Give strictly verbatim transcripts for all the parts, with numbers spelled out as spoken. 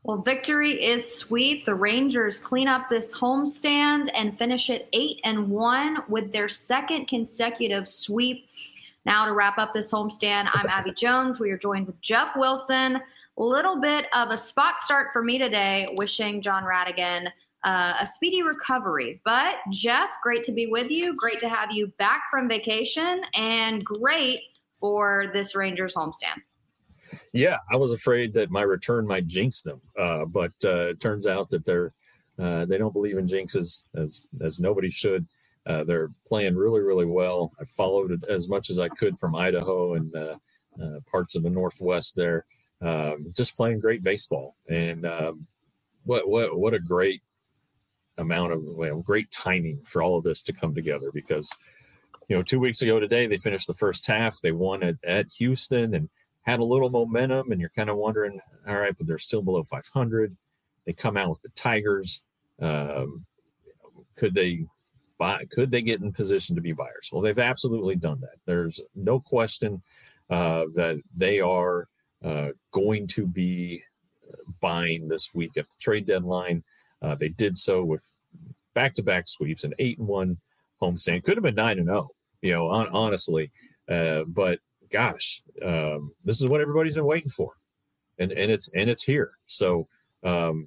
Well, victory is sweet. The Rangers clean up this homestand and finish it eight and one with their second consecutive sweep. Now to wrap up this homestand, I'm Abby Jones. We are joined with Jeff Wilson. A little bit of a spot start for me today, wishing John Radigan uh, a speedy recovery. But Jeff, great to be with you. Great to have you back from vacation, and great for this Rangers homestand. Yeah, I was afraid that my return might jinx them, uh, but uh, it turns out that they're uh, they don't believe in jinxes, as as nobody should. Uh, they're playing really, really well. I followed it as much as I could from Idaho and uh, uh, parts of the Northwest there, um, just playing great baseball. And um, what what what a great amount of well, great timing for all of this to come together, because you know two weeks ago today they finished the first half. They won at, at Houston and had a little momentum, and you're kind of wondering, all right, but they're still below five hundred. They come out with the Tigers. Um, could they buy? Could they get in position to be buyers? Well, they've absolutely done that. There's no question uh, that they are uh, going to be buying this week at the trade deadline. Uh, they did so with back-to-back sweeps, an eight and one homestand. Could have been nine and zero, you know, on, honestly, uh, but. Gosh, um, this is what everybody's been waiting for, and and it's and it's here. So, um,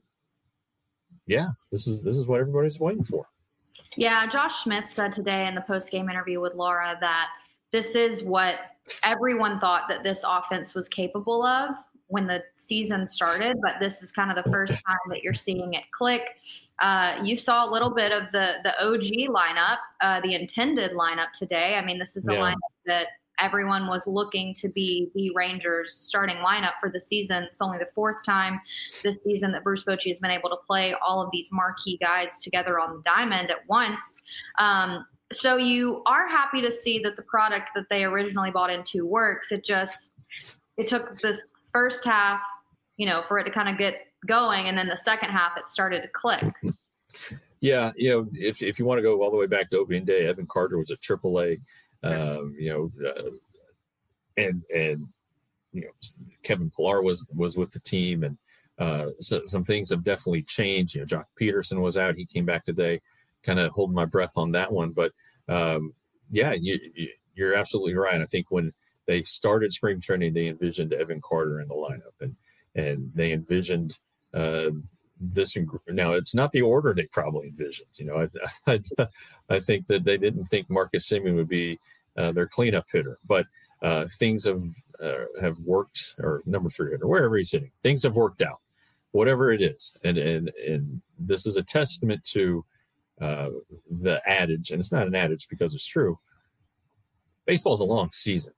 yeah, this is this is what everybody's waiting for. Yeah, Josh Smith said today in the post-game interview with Laura that this is what everyone thought that this offense was capable of when the season started, but this is kind of the first time that you're seeing it click. Uh, you saw a little bit of the the O G lineup, uh, the intended lineup today. I mean, this is a yeah. lineup that everyone was looking to be the Rangers starting lineup for the season. It's only the fourth time this season that Bruce Bochy has been able to play all of these marquee guys together on the diamond at once. Um, so you are happy to see that the product that they originally bought into works. It just, it took this first half, you know, for it to kind of get going. And then the second half, it started to click. Yeah. You know, if, if you want to go all the way back to opening day, Evan Carter was at triple A. Um, you know, uh, and and you know, Kevin Pillar was was with the team, and uh, so some things have definitely changed. You know, Jock Peterson was out; he came back today. Kind of holding my breath on that one, but um, yeah, you, you, you're absolutely right. I think when they started spring training, they envisioned Evan Carter in the lineup, and and they envisioned uh, this. Now, it's not the order they probably envisioned. You know, I I, I think that they didn't think Marcus Semien would be Uh, their cleanup hitter, but uh, things have uh, have worked, or number three hitter, wherever he's hitting, things have worked out, whatever it is, and and and this is a testament to uh, the adage, and it's not an adage because it's true. Baseball is a long season,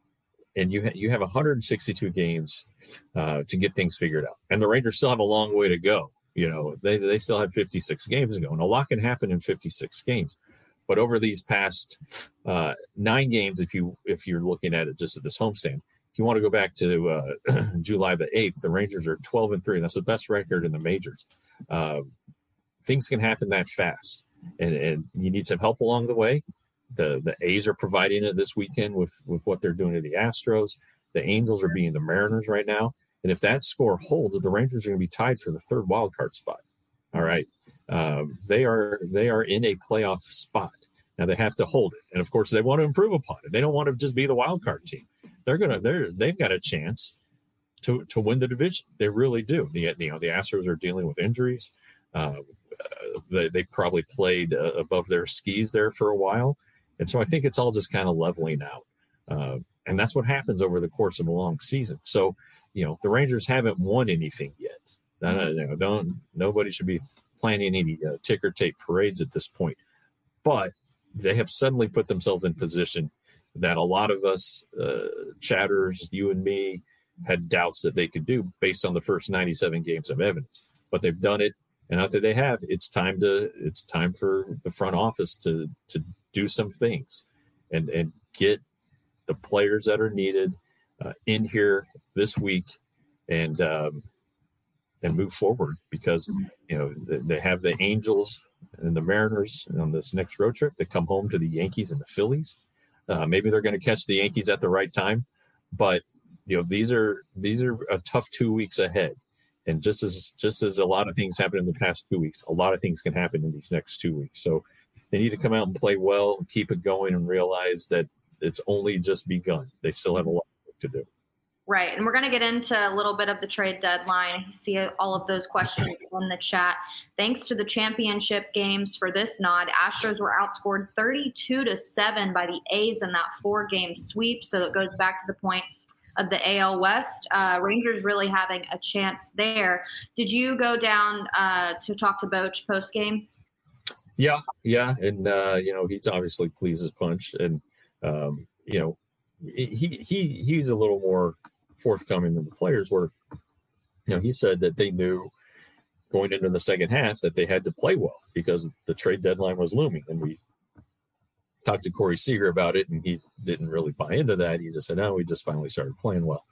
and you ha- you have one hundred sixty-two games uh, to get things figured out, and the Rangers still have a long way to go. You know, they they still have fifty-six games to go, and a lot can happen in fifty-six games. But over these past uh, nine games, if you if you're looking at it just at this homestand, if you want to go back to uh, July the eighth, the Rangers are twelve and three, and that's the best record in the majors. Uh, things can happen that fast, and, and you need some help along the way. The the A's are providing it this weekend with with what they're doing to the Astros. The Angels are beating the Mariners right now, and if that score holds, the Rangers are going to be tied for the third wild card spot. All right, um, they are they are in a playoff spot. Now they have to hold it, and of course they want to improve upon it. They don't want to just be the wild card team. They're gonna, they're they've got a chance to to win the division. They really do. The you know the Astros are dealing with injuries. Uh, uh, they they probably played uh, above their skis there for a while, and so I think it's all just kind of leveling out. Uh, and that's what happens over the course of a long season. So you know the Rangers haven't won anything yet. Uh, you know, don't nobody should be planning any uh, ticker tape parades at this point, but they have suddenly put themselves in position that a lot of us uh, chatters, you and me, had doubts that they could do based on the first ninety-seven games of evidence. But they've done it, and after they have, it's time to it's time for the front office to to do some things and and get the players that are needed uh, in here this week and um, and move forward, because you know they have the Angels and the Mariners on this next road trip. They come home to the Yankees and the Phillies. Uh, maybe they're going to catch the Yankees at the right time, but you know these are these are a tough two weeks ahead, And just as just as a lot of things happened in the past two weeks, a lot of things can happen in these next two weeks. So they need to come out and play well, keep it going, and realize that it's only just begun. They still have a lot of work to do. Right. And we're going to get into a little bit of the trade deadline. I see all of those questions in the chat. Thanks to the championship games for this nod, Astros were outscored thirty-two to seven by the A's in that four-game sweep. So it goes back to the point of the A L West. Uh, Rangers really having a chance there. Did you go down uh, to talk to Boch post-game? Yeah, yeah. And, uh, you know, he's obviously pleased as punch. And, um, you know, he he he's a little more forthcoming than the players were. You know, he said that they knew going into the second half that they had to play well because the trade deadline was looming. And we talked to Corey Seager about it, and he didn't really buy into that. He just said, no, we just finally started playing well.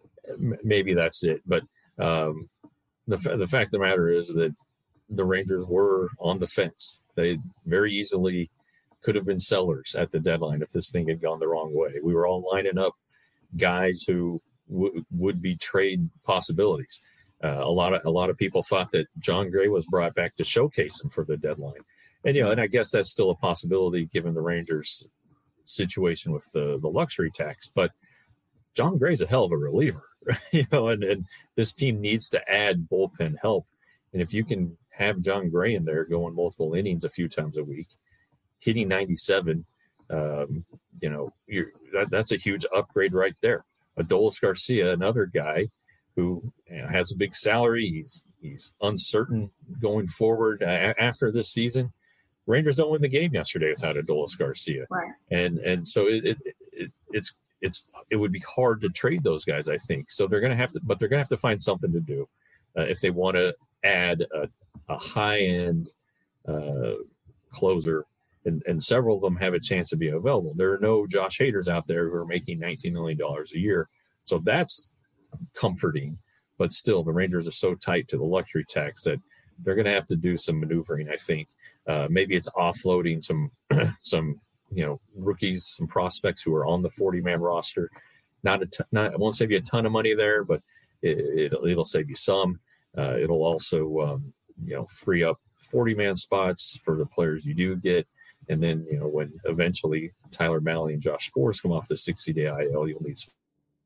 Maybe that's it. But um, the, the fact of the matter is that the Rangers were on the fence. They very easily could have been sellers at the deadline if this thing had gone the wrong way. We were all lining up guys who w- would be trade possibilities. Uh, a lot of a lot of people thought that John Gray was brought back to showcase him for the deadline, and you know, and I guess that's still a possibility given the Rangers' situation with the the luxury tax. But John Gray's a hell of a reliever, you know, and, and this team needs to add bullpen help, and if you can have John Gray in there going multiple innings a few times a week, hitting ninety-seven, um, you know, you're, that, that's a huge upgrade right there. Adolis Garcia, another guy who you know, has a big salary. He's he's uncertain going forward uh, after this season. Rangers don't win the game yesterday without Adolis Garcia, right? And and so it, it, it it's it's it would be hard to trade those guys, I think. So they're going to have to, but they're going to have to find something to do uh, if they want to add a, a high end uh, closer. And, and several of them have a chance to be available. There are no Josh Haders out there who are making nineteen million dollars a year. So that's comforting. But still, the Rangers are so tight to the luxury tax that they're going to have to do some maneuvering, I think. Uh, maybe it's offloading some, some you know, rookies, some prospects who are on the forty-man roster. Not a t- not, I won't save you a ton of money there, but it, it'll, it'll save you some. Uh, it'll also, um, you know, free up forty-man spots for the players you do get. And then, you know, when eventually Tyler Mahle and Josh Sborz come off the sixty-day I L, you'll need some.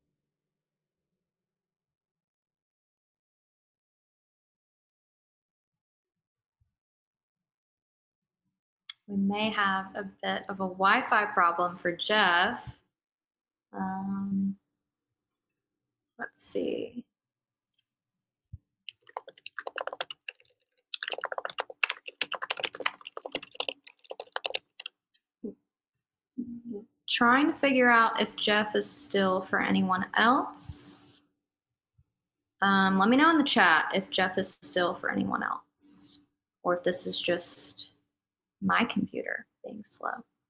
We may have a bit of a Wi-Fi problem for Jeff. Um, let's see. Trying to figure out if Jeff is still for anyone else. Um, let me know in the chat if Jeff is still for anyone else, or if this is just my computer being slow.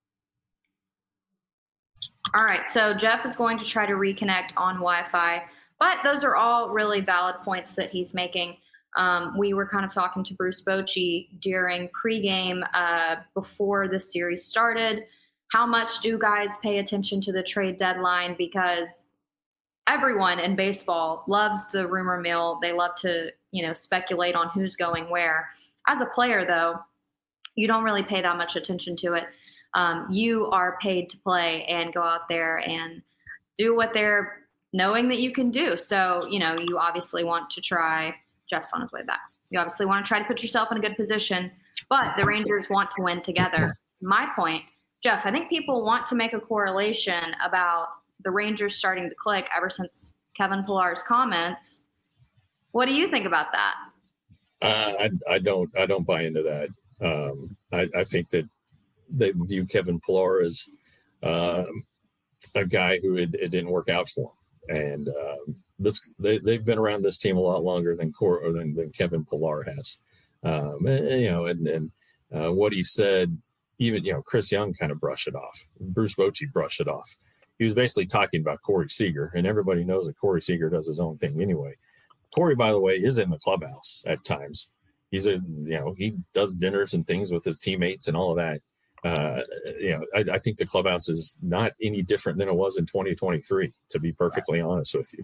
All right, so Jeff is going to try to reconnect on Wi-Fi, but those are all really valid points that he's making. Um, we were kind of talking to Bruce Bochy during pregame uh, before the series started. How much do guys pay attention to the trade deadline? Because everyone in baseball loves the rumor mill. They love to, you know, speculate on who's going where. As a player, though, you don't really pay that much attention to it. Um, you are paid to play and go out there and do what they're knowing that you can do. So, you know, you obviously want to try. Jeff's on his way back. You obviously want to try to put yourself in a good position, but the Rangers want to win together. My point, Jeff, I think people want to make a correlation about the Rangers starting to click ever since Kevin Pillar's comments. What do you think about that? Uh, I, I don't. I don't buy into that. Um, I, I think that they view Kevin Pillar as um, a guy who it, it didn't work out for him, and um, this they, they've been around this team a lot longer than Cor- or than, than Kevin Pillar has. Um, and, you know, and, and uh, what he said. Even, you know, Chris Young kind of brushed it off. Bruce Bochy brushed it off. He was basically talking about Corey Seager, and everybody knows that Corey Seager does his own thing anyway. Corey, by the way, is in the clubhouse at times. He's a, you know, he does dinners and things with his teammates and all of that. Uh, you know, I, I think the clubhouse is not any different than it was in twenty twenty-three, to be perfectly honest with you.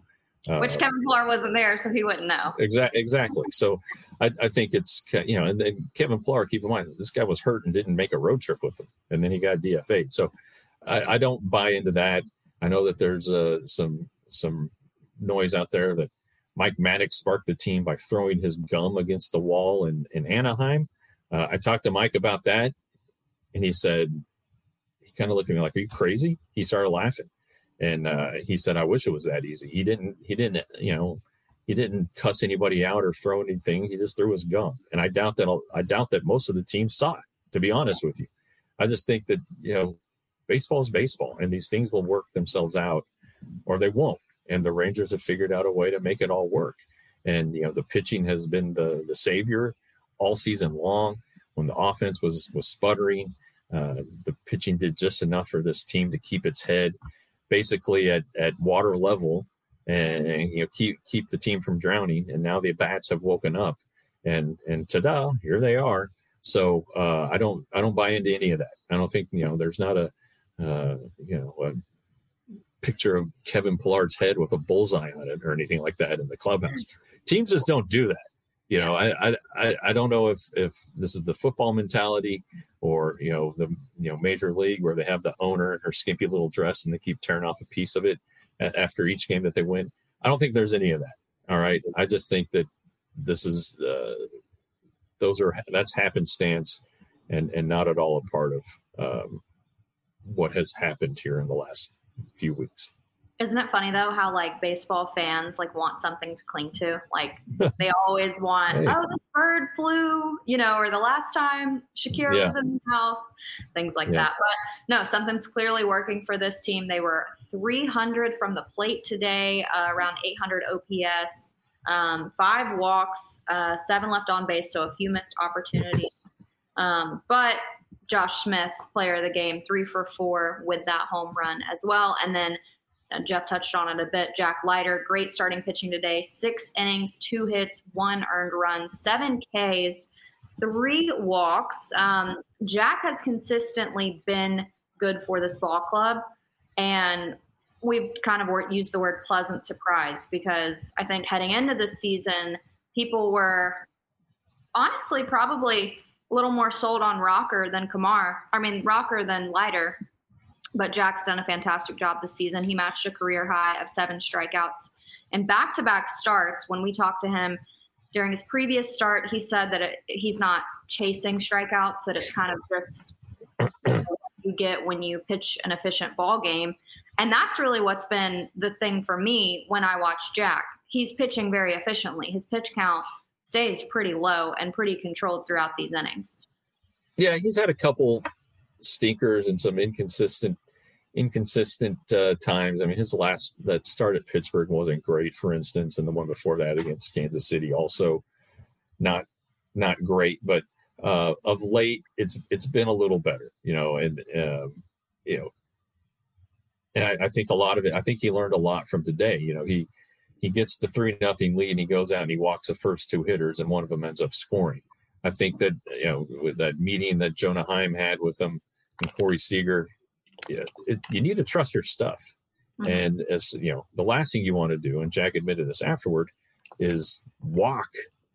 Uh, Which Kevin Pillar wasn't there, so he wouldn't know. Exactly. Exactly. So I, I think it's, you know, and then Kevin Pillar, keep in mind, this guy was hurt and didn't make a road trip with him, and then he got D F A'd. So I, I don't buy into that. I know that there's uh, some some noise out there that Mike Maddox sparked the team by throwing his gum against the wall in, in Anaheim. Uh, I talked to Mike about that, and he said, he kind of looked at me like, "Are you crazy?" He started laughing. And uh, he said, "I wish it was that easy." He didn't, he didn't, you know, he didn't cuss anybody out or throw anything. He just threw his gum. And I doubt that, I doubt that most of the team saw it, to be honest with you. I just think that, you know, baseball is baseball, and these things will work themselves out or they won't. And the Rangers have figured out a way to make it all work. And, you know, the pitching has been the, the savior all season long. When the offense was, was sputtering, uh, the pitching did just enough for this team to keep its head basically at, at water level and, and you know keep keep the team from drowning. And now the bats have woken up, and and ta-da, here they are. So uh, I don't I don't buy into any of that. I don't think, you know, there's not a uh, you know a picture of Kevin Pillar's head with a bullseye on it or anything like that in the clubhouse. Teams just don't do that. You know, I I I don't know if if this is the football mentality, or, you know, the, you know, major league where they have the owner in her skimpy little dress and they keep tearing off a piece of it after each game that they win. I don't think there's any of that. All right. I just think that this is, uh, those are, that's happenstance and, and not at all a part of um, what has happened here in the last few weeks. Isn't it funny though how like baseball fans like want something to cling to? Like they always want, hey. oh, this bird flew, you know, or the last time Shakira yeah. was in the house, things like yeah. that. But no, something's clearly working for this team. They were three hundred from the plate today, uh, around eight hundred O P S, um, five walks, uh, seven left on base, so a few missed opportunities. Um, but Josh Smith, player of the game, three for four with that home run as well, and then. Jeff touched on it a bit. Jack Leiter, great starting pitching today. Six innings, two hits, one earned run, seven Ks, three walks. Um, Jack has consistently been good for this ball club. And we've kind of used the word pleasant surprise, because I think heading into this season, people were honestly probably a little more sold on Rocker than Kumar. I mean, Rocker than Leiter. But Jack's done a fantastic job this season. He matched a career high of seven strikeouts and back-to-back starts. When we talked to him during his previous start, he said that it, he's not chasing strikeouts, that it's kind of just what you get when you pitch an efficient ball game. And that's really what's been the thing for me when I watch Jack. He's pitching very efficiently. His pitch count stays pretty low and pretty controlled throughout these innings. Yeah, he's had a couple stinkers and some inconsistent inconsistent uh, times. I mean, his last that start at Pittsburgh wasn't great, for instance, and the one before that against Kansas City also not not great. But uh, of late, it's it's been a little better, you know, and um, you know, and I, I think a lot of it. I think he learned a lot from today. You know, he he gets the three nothing lead, and he goes out and he walks the first two hitters, and one of them ends up scoring. I think that, you know, with that meeting that Jonah Heim had with him and Corey Seager, yeah, it, you need to trust your stuff. Mm-hmm. And as you know, the last thing you want to do, and Jack admitted this afterward, is walk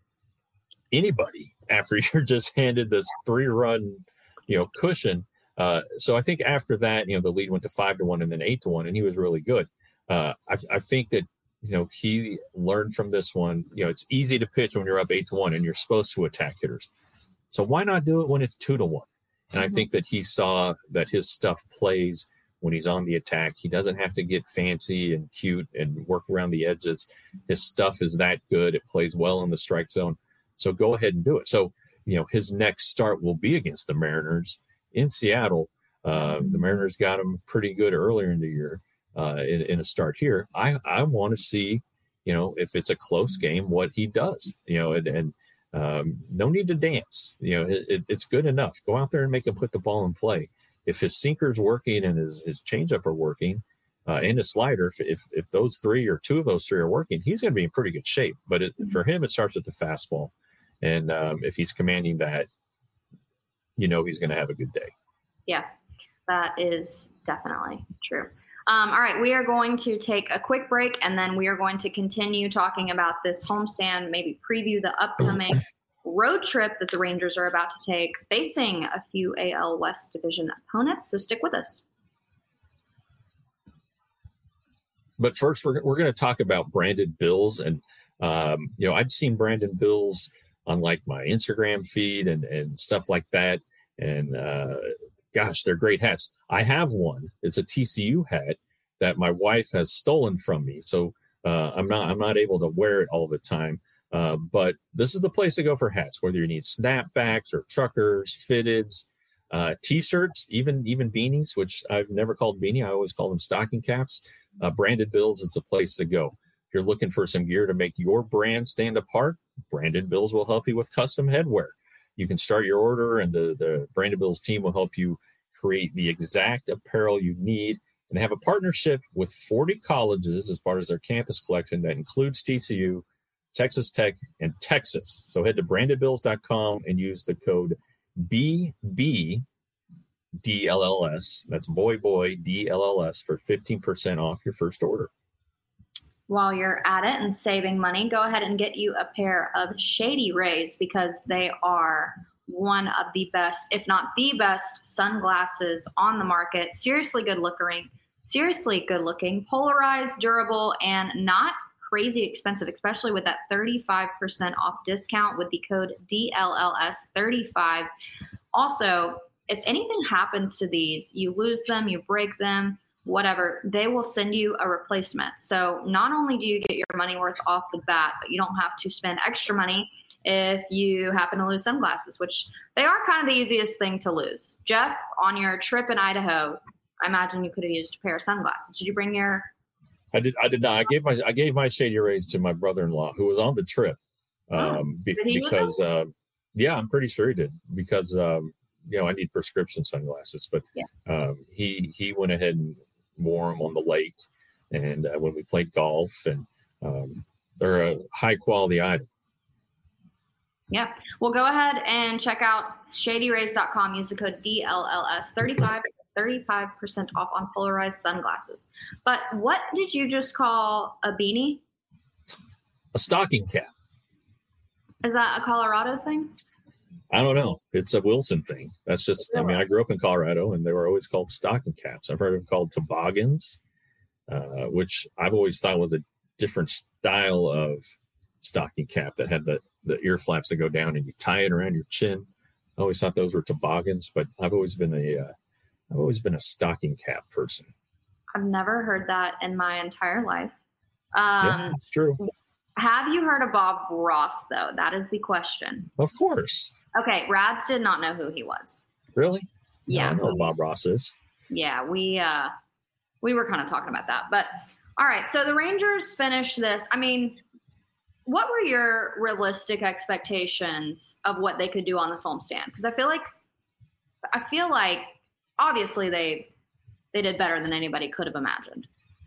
anybody after you're just handed this three-run, you know, cushion. Uh, so I think after that, you know, the lead went to five to one and then eight to one, and he was really good. Uh, I, I think that, you know, he learned from this one. You know, it's easy to pitch when you're up eight to one and you're supposed to attack hitters. So why not do it when it's two to one? And I think that he saw that his stuff plays when he's on the attack. He doesn't have to get fancy and cute and work around the edges. His stuff is that good. It plays well in the strike zone. So go ahead and do it. So, you know, his next start will be against the Mariners in Seattle. Uh, the Mariners got him pretty good earlier in the year uh, in, in a start here. I, I want to see, you know, if it's a close game, what he does, you know, and, and Um, no need to dance. You know, it, it, it's good enough. Go out there and make him put the ball in play. If his sinker's working and his, his changeup are working uh, and his slider, if, if if those three or two of those three are working, he's going to be in pretty good shape. But it, for him, it starts with the fastball. And um, if he's commanding that, you know he's going to have a good day. Yeah, that is definitely true. Um, all right, we are going to take a quick break, and then we are going to continue talking about this homestand, maybe preview the upcoming road trip that the Rangers are about to take, facing a few A L West Division opponents. So stick with us. But first, we're we're going to talk about branded bills, and um, you know, I'd seen branded bills on like my Instagram feed and and stuff like that, and uh, gosh, they're great hats. I have one. It's a T C U hat that my wife has stolen from me, so uh, I'm not I'm not able to wear it all the time. Uh, but this is the place to go for hats, whether you need snapbacks or truckers, fitteds, uh, t-shirts, even even beanies, which I've never called beanie. I always call them stocking caps. Uh, branded bills is the place to go. If you're looking for some gear to make your brand stand apart, Branded Bills will help you with custom headwear. You can start your order, and the, the Branded Bills team will help you create the exact apparel you need, and have a partnership with forty colleges as part of their campus collection that includes T C U, Texas Tech, and Texas. So head to branded bills dot com and use the code B B D L L S. That's boy, boy, D L L S for fifteen percent off your first order. While you're at it and saving money, go ahead and get you a pair of Shady Rays, because they are one of the best, if not the best, sunglasses on the market. Seriously good looking, seriously good looking, polarized, durable, and not crazy expensive, especially with that thirty-five percent off discount with the code D L L S thirty-five. Also, if anything happens to these, you lose them, you break them, whatever, they will send you a replacement. So not only do you get your money worth off the bat, but you don't have to spend extra money if you happen to lose sunglasses, which they are kind of the easiest thing to lose. Jeff, on your trip in Idaho, I imagine you could have used a pair of sunglasses. Did you bring your... I did. I did not. I gave my I gave my Shady Rays to my brother-in-law, who was on the trip. Um, oh, be, because uh, yeah, I'm pretty sure he did, because um, you know, I need prescription sunglasses, but yeah. um, he he went ahead and wore them on the lake, and uh, when we played golf, and um, they're a high quality item. Yeah. Well, go ahead and check out shady rays dot com. Use the code D L L S thirty-five. thirty-five percent off on polarized sunglasses. But what did you just call a beanie? A stocking cap. Is that a Colorado thing? I don't know. It's a Wilson thing. That's just, I mean, I grew up in Colorado, and they were always called stocking caps. I've heard them called toboggans, uh, which I've always thought was a different style of stocking cap that had the, the ear flaps that go down and you tie it around your chin. I always thought those were toboggans, but I've always been a, uh, I've always been a stocking cap person. I've never heard that in my entire life. Um, yeah, that's true. Have you heard of Bob Ross, though? That is the question. Of course. Okay, Rads did not know who he was. Really? Yeah. No, I know who Bob Ross is. Yeah, we uh, we were kind of talking about that. But, all right, so the Rangers finished this. I mean, what were your realistic expectations of what they could do on this homestand? Because I feel like, I feel like, obviously they they did better than anybody could have imagined.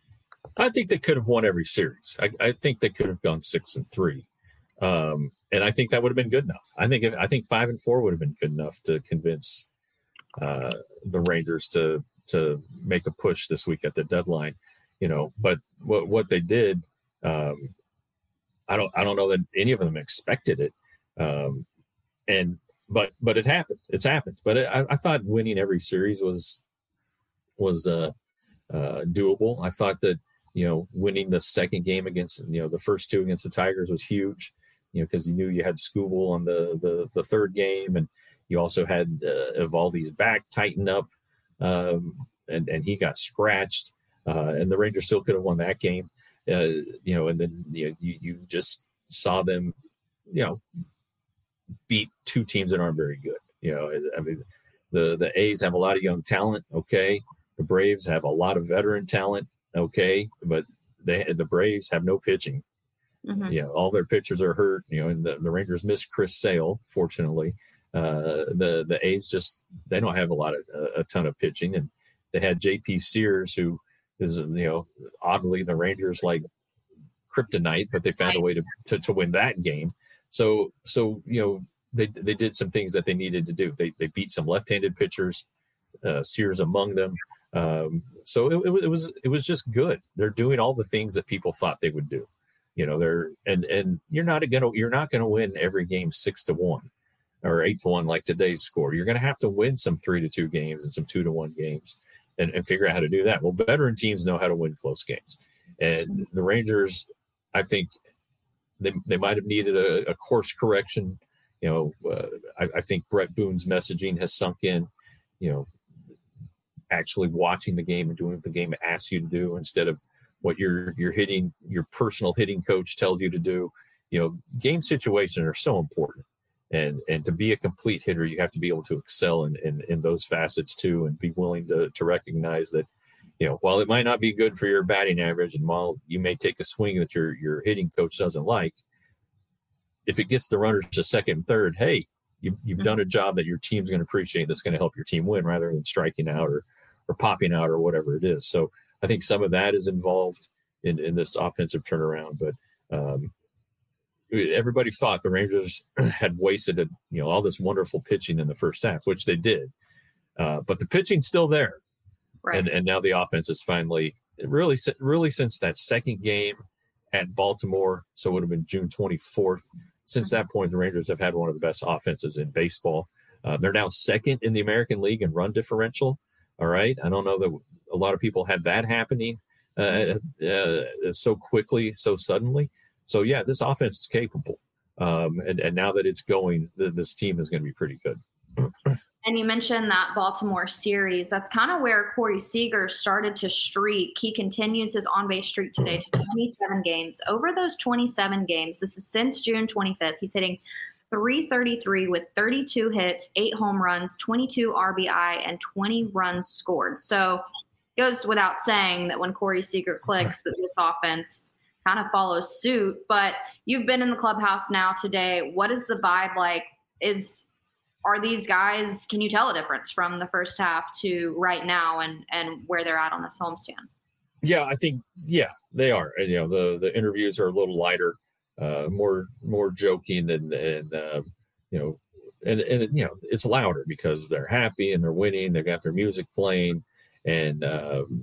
I think they could have won every series. I, I think they could have gone six and three, um, and I think that would have been good enough. I think if, I think five and four would have been good enough to convince uh, the Rangers to to make a push this week at the deadline. You know, but what what they did, um, I don't I don't know that any of them expected it, um, and. But but it happened. It's happened. But it, I, I thought winning every series was was uh, uh, doable. I thought that, you know, winning the second game against, you know, the first two against the Tigers was huge. You know, because you knew you had Skubal on the, the the third game, and you also had uh, Eovaldi's back tightened up, um, and and he got scratched, uh, and the Rangers still could have won that game. Uh, you know, and then you know, you you just saw them, you know, beat two teams that aren't very good. You know, I mean, the, the A's have a lot of young talent. Okay. The Braves have a lot of veteran talent. Okay. But they, the Braves have no pitching. Mm-hmm. You know, all their pitchers are hurt, you know, and the, the Rangers miss Chris Sale, fortunately. Uh, the, the A's just, they don't have a lot of, a, a ton of pitching. And they had J P Sears, who is, you know, oddly the Rangers like kryptonite, but they found a way to, to, to win that game. So, so you know, they they did some things that they needed to do. They they beat some left-handed pitchers, uh, Sears among them. Um, so it, it, it was it was just good. They're doing all the things that people thought they would do. You know, they're and and you're not gonna you're not gonna win every game six to one or eight to one like today's score. You're gonna have to win some three to two games and some two to one games and, and figure out how to do that. Well, veteran teams know how to win close games, and the Rangers, I think they they might have needed a, a course correction. You know, uh, I, I think Brett Boone's messaging has sunk in. You know, actually watching the game and doing what the game asks you to do instead of what your your hitting your personal hitting coach tells you to do. You know, game situations are so important, and and to be a complete hitter, you have to be able to excel in in, in those facets too, and be willing to to recognize that, you know, while it might not be good for your batting average, and while you may take a swing that your your hitting coach doesn't like, if it gets the runners to second and third, hey, you, you've mm-hmm. done a job that your team's going to appreciate. That's going to help your team win rather than striking out or or popping out or whatever it is. So I think some of that is involved in, in this offensive turnaround. But um, everybody thought the Rangers had wasted a, you know, all this wonderful pitching in the first half, which they did. Uh, but the pitching's still there. Right. And and now the offense is finally really, really since that second game at Baltimore. So it would have been June twenty-fourth. Since that point, the Rangers have had one of the best offenses in baseball. Uh, they're now second in the American League in run differential. All right. I don't know that a lot of people had that happening uh, uh, so quickly, so suddenly. So, yeah, this offense is capable. Um, and, and now that it's going, th- this team is going to be pretty good. And you mentioned that Baltimore series. That's kind of where Corey Seager started to streak. He continues his on-base streak today to twenty-seven games. Over those twenty-seven games, this is since June twenty-fifth, he's hitting three thirty-three with thirty-two hits, eight home runs, twenty-two R B I, and twenty runs scored. So it goes without saying that when Corey Seager clicks, that this offense kind of follows suit. But you've been in the clubhouse now today. What is the vibe like? Is are these guys, can you tell a difference from the first half to right now and, and where they're at on this homestand? Yeah, I think, yeah, they are. And, you know, the, the interviews are a little lighter. Uh, more more joking and and uh, you know and and you know it's louder because they're happy and they're winning. They've got their music playing, and um,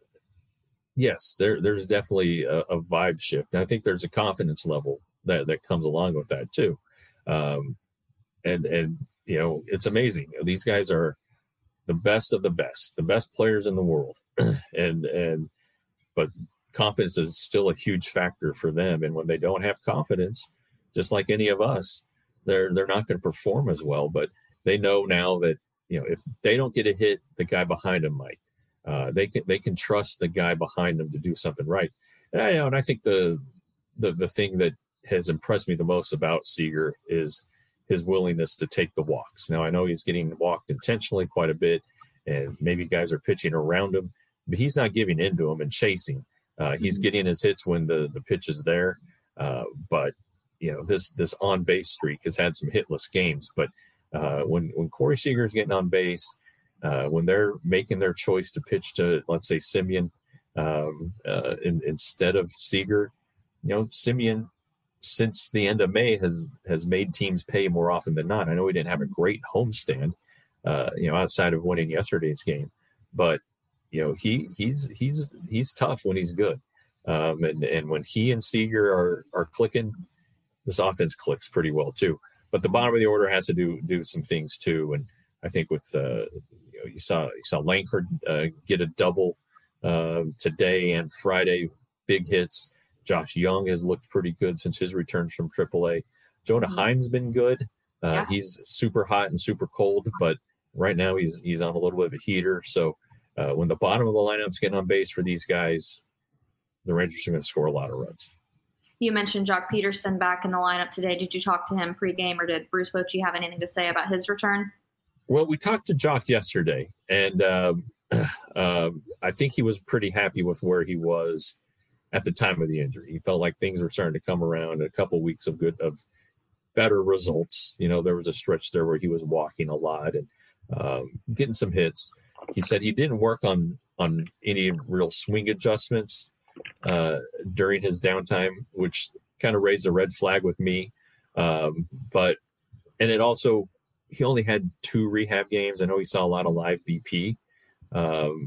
yes, there there's definitely a, a vibe shift. And I think there's a confidence level that that comes along with that too. Um, and and you know it's amazing. These guys are the best of the best, the best players in the world, and and but. Confidence is still a huge factor for them. And when they don't have confidence, just like any of us, they're they're not going to perform as well. But they know now that, you know, if they don't get a hit, the guy behind them might. Uh, they can they can trust the guy behind them to do something right. And I, you know, and I think the the the thing that has impressed me the most about Seager is his willingness to take the walks. Now I know he's getting walked intentionally quite a bit, and maybe guys are pitching around him, but he's not giving in to them and chasing. Uh, he's getting his hits when the, the pitch is there. Uh, but, you know, this this on-base streak has had some hitless games. But uh, when, when Corey Seager is getting on base, uh, when they're making their choice to pitch to, let's say, Semien um, uh, in, instead of Seager, you know, Semien, since the end of May, has has made teams pay more often than not. I know he didn't have a great homestand, uh, you know, outside of winning yesterday's game. But you know, he he's he's he's tough when he's good, um, and and when he and Seager are are clicking, this offense clicks pretty well too. But the bottom of the order has to do do some things too. And I think with uh, you know, you saw you saw Langford uh, get a double uh, today and Friday, big hits. Josh Young has looked pretty good since his return from triple A. Jonah mm-hmm. Heim's been good. Uh, yeah. He's super hot and super cold, but right now he's he's on a little bit of a heater. So. Uh, when the bottom of the lineup's getting on base for these guys, the Rangers are going to score a lot of runs. You mentioned Jock Peterson back in the lineup today. Did you talk to him pregame, or did Bruce Bochy have anything to say about his return? Well, we talked to Jock yesterday, and um, uh, I think he was pretty happy with where he was at the time of the injury. He felt like things were starting to come around. A couple of weeks of good, of better results. You know, there was a stretch there where he was walking a lot and um, getting some hits. He said he didn't work on on any real swing adjustments uh, during his downtime, which kind of raised a red flag with me. Um, but and it also he only had two rehab games. I know he saw a lot of live B P, um,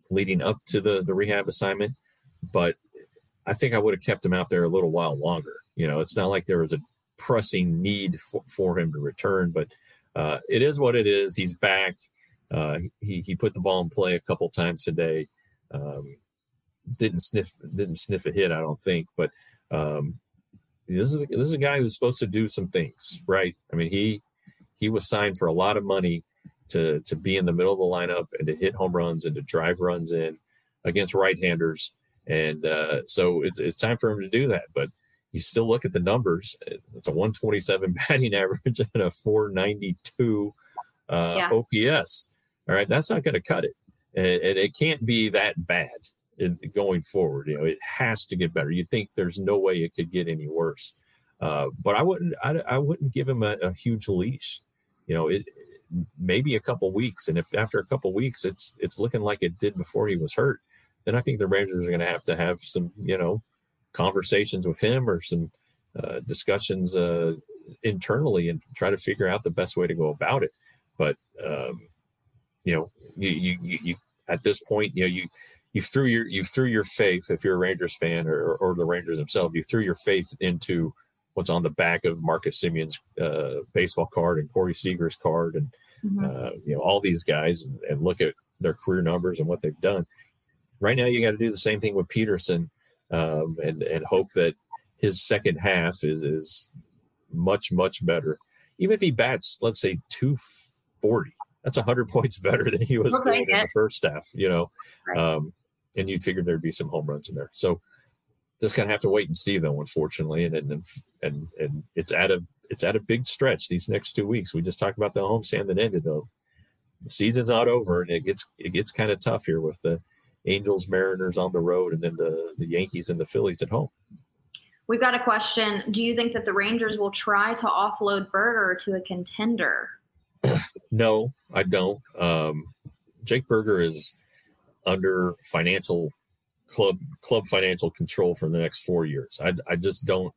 leading up to the the rehab assignment, but I think I would have kept him out there a little while longer. You know, it's not like there was a pressing need for, for him to return, but uh, it is what it is. He's back. Uh, he he put the ball in play a couple times today. Um, didn't sniff didn't sniff a hit, I don't think, but um, this is this is a guy who's supposed to do some things, right? I mean, he he was signed for a lot of money to to be in the middle of the lineup and to hit home runs and to drive runs in against right-handers, and uh, so it's it's time for him to do that. But you still look at the numbers; it's a one twenty-seven batting average and a four ninety-two uh, yeah. O P S. All right, that's not going to cut it, and, and it can't be that bad in, going forward. You know, it has to get better. You'd think there's no way it could get any worse, uh, but I wouldn't. I, I wouldn't give him a, a huge leash. You know, it maybe a couple weeks, and if after a couple weeks it's it's looking like it did before he was hurt, then I think the Rangers are going to have to have some, you know, conversations with him or some uh, discussions uh, internally and try to figure out the best way to go about it. But um, you know, you, you, you, at this point, you know, you, you threw your, you threw your faith, if you're a Rangers fan or, or the Rangers themselves, you threw your faith into what's on the back of Marcus Simeon's uh, baseball card and Corey Seager's card and, mm-hmm. uh, you know, all these guys and, and look at their career numbers and what they've done. Right now, you got to do the same thing with Peterson um, and, and hope that his second half is, is much, much better. Even if he bats, let's say two forty, that's one hundred points better than he was okay, doing yeah. in the first half, you know, right. um, and you figured there'd be some home runs in there. So just kind of have to wait and see, though, unfortunately. And and and and it's at a it's at a big stretch these next two weeks. We just talked about the homestand that ended, though. The season's not over, and it gets it gets kind of tough here with the Angels, Mariners on the road, and then the the Yankees and the Phillies at home. We've got a question. Do you think that the Rangers will try to offload Berger to a contender? No, I don't. Um, Jake Berger is under financial club club financial control for the next four years. I, I just don't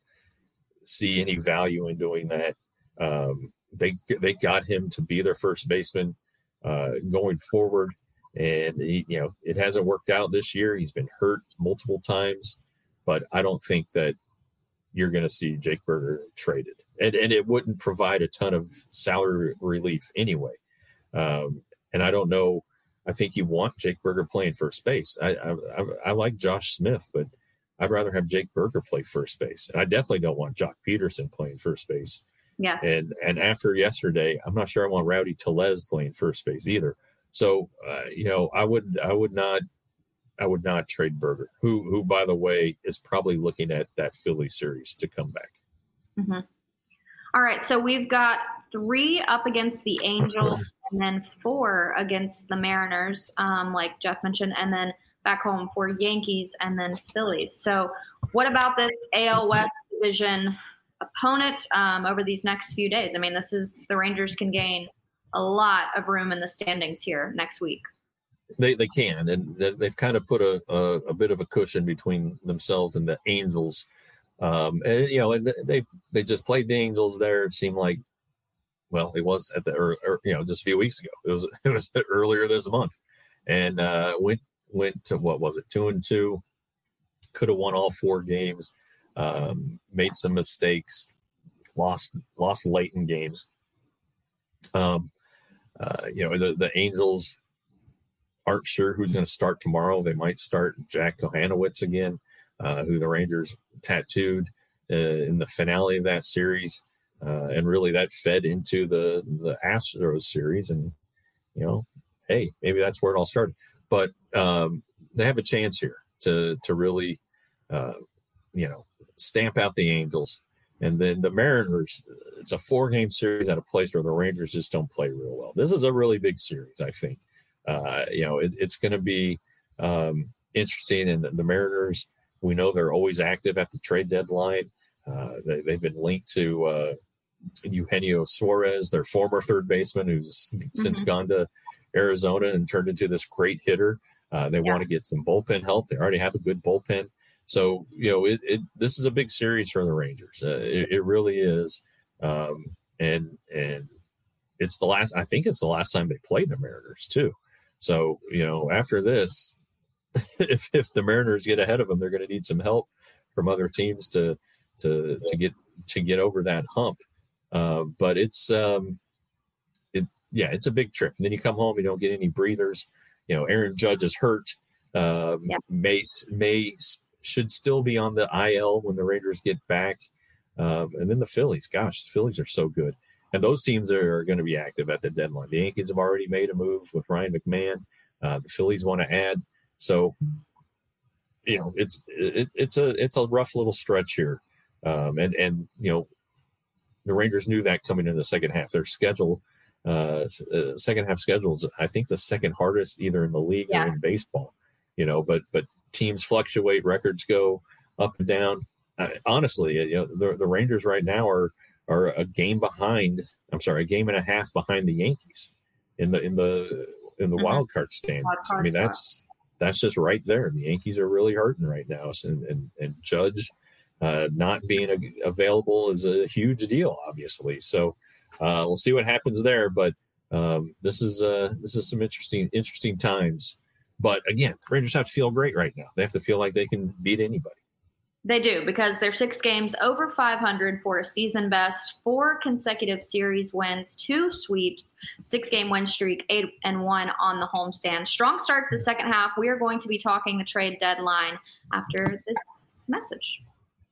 see any value in doing that. Um, they they got him to be their first baseman uh, going forward, and he, you know, it hasn't worked out this year. He's been hurt multiple times, but I don't think that you're going to see Jake Berger traded. And and it wouldn't provide a ton of salary relief anyway. Um, and I don't know. I think you want Jake Berger playing first base. I, I I like Josh Smith, but I'd rather have Jake Berger play first base. And I definitely don't want Jock Peterson playing first base. Yeah. And and after yesterday, I'm not sure I want Rowdy Tellez playing first base either. So uh, you know, I would I would not. I would not trade Berger, who, who, by the way, is probably looking at that Philly series to come back. Mm-hmm. All right. So we've got three up against the Angels and then four against the Mariners, um, like Jeff mentioned, and then back home for Yankees and then Phillies. So what about this A L West division opponent um, over these next few days? I mean, this is the Rangers can gain a lot of room in the standings here next week. They they can, and they've kind of put a, a, a bit of a cushion between themselves and the Angels. Um, and, you know, and they they just played the Angels there. It seemed like, well, it was at the, or, or, you know, just a few weeks ago. It was it was earlier this month. And uh, went went to, what was it, two and two. Could have won all four games, um, made some mistakes, lost lost late in games. Um, uh, you know, the, the Angels aren't sure who's going to start tomorrow. They might start Jack Kohanowitz again, uh, who the Rangers tattooed uh, in the finale of that series. Uh, and really that fed into the, the Astros series. And, you know, hey, maybe that's where it all started. But um, they have a chance here to to really, uh, you know, stamp out the Angels. And then the Mariners, it's a four-game series at a place where the Rangers just don't play real well. This is a really big series, I think. Uh, you know, it, it's going to be um, interesting. And the, the Mariners, we know they're always active at the trade deadline. Uh, they, they've been linked to uh, Eugenio Suarez, their former third baseman, who's mm-hmm. since gone to Arizona and turned into this great hitter. Uh, they yeah. want to get some bullpen help. They already have a good bullpen. So, you know, it, it this is a big series for the Rangers. Uh, it, it really is. Um, and and it's the last, I think it's the last time they played the Mariners, too. So, you know, after this, if if the Mariners get ahead of them, they're going to need some help from other teams to to to get to get over that hump. Uh, but it's um, it yeah, it's a big trip. And then you come home, you don't get any breathers. You know, Aaron Judge is hurt. Um, yeah. May May should still be on the I L when the Rangers get back. Um, and then the Phillies, gosh, the Phillies are so good. And those teams are, are going to be active at the deadline. The Yankees have already made a move with Ryan McMahon. Uh, the Phillies want to add. So, you know, it's it, it's a it's a rough little stretch here. Um, and, and, you know, the Rangers knew that coming in the second half. Their schedule, uh, uh, second half schedules, I think the second hardest either in the league yeah. or in baseball. You know, but but teams fluctuate, records go up and down. Uh, honestly, you know, the, the Rangers right now are are a game behind. I'm sorry, a game and a half behind the Yankees in the in the in the mm-hmm. wild card standings. Wild I mean, that's that's just right there. The Yankees are really hurting right now, and and, and Judge uh, not being a, available is a huge deal, obviously. So uh, we'll see what happens there. But um, this is uh, this is some interesting interesting times. But again, the Rangers have to feel great right now. They have to feel like they can beat anybody. They do, because they're six games over five hundred for a season best, four consecutive series wins, two sweeps, six-game win streak, eight and one on the homestand. Strong start to the second half. We are going to be talking the trade deadline after this message.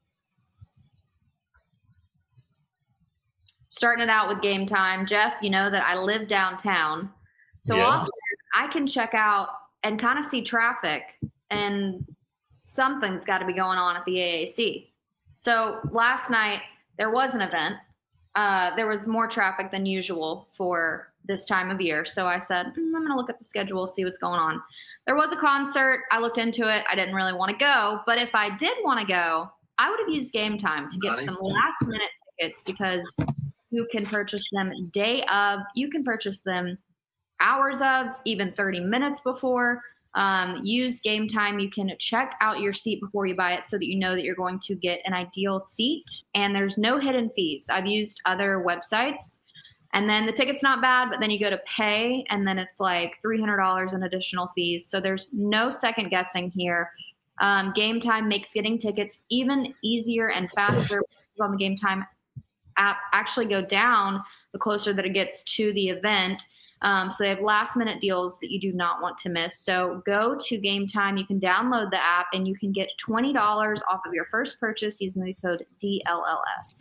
Starting it out with Game Time. Jeff, you know that I live downtown. So yeah. often I can check out and kind of see traffic, and something's got to be going on at the A A C. So last night there was an event. Uh, there was more traffic than usual for this time of year. So I said, mm, I'm going to look at the schedule, see what's going on. There was a concert. I looked into it. I didn't really want to go, but if I did want to go, I would have used Game Time to get some last minute tickets, because you can purchase them day of, you can purchase them hours of, even thirty minutes before. Um, use Game Time. You can check out your seat before you buy it so that you know that you're going to get an ideal seat, and there's no hidden fees. I've used other websites, and then the ticket's not bad, but then you go to pay, and then it's like three hundred dollars in additional fees. So there's no second guessing here. Um, Game Time makes getting tickets even easier and faster. On the Game Time app actually go down the closer that it gets to the event. Um, so they have last minute deals that you do not want to miss. So go to Game Time. You can download the app and you can get twenty dollars off of your first purchase using the code D L L S.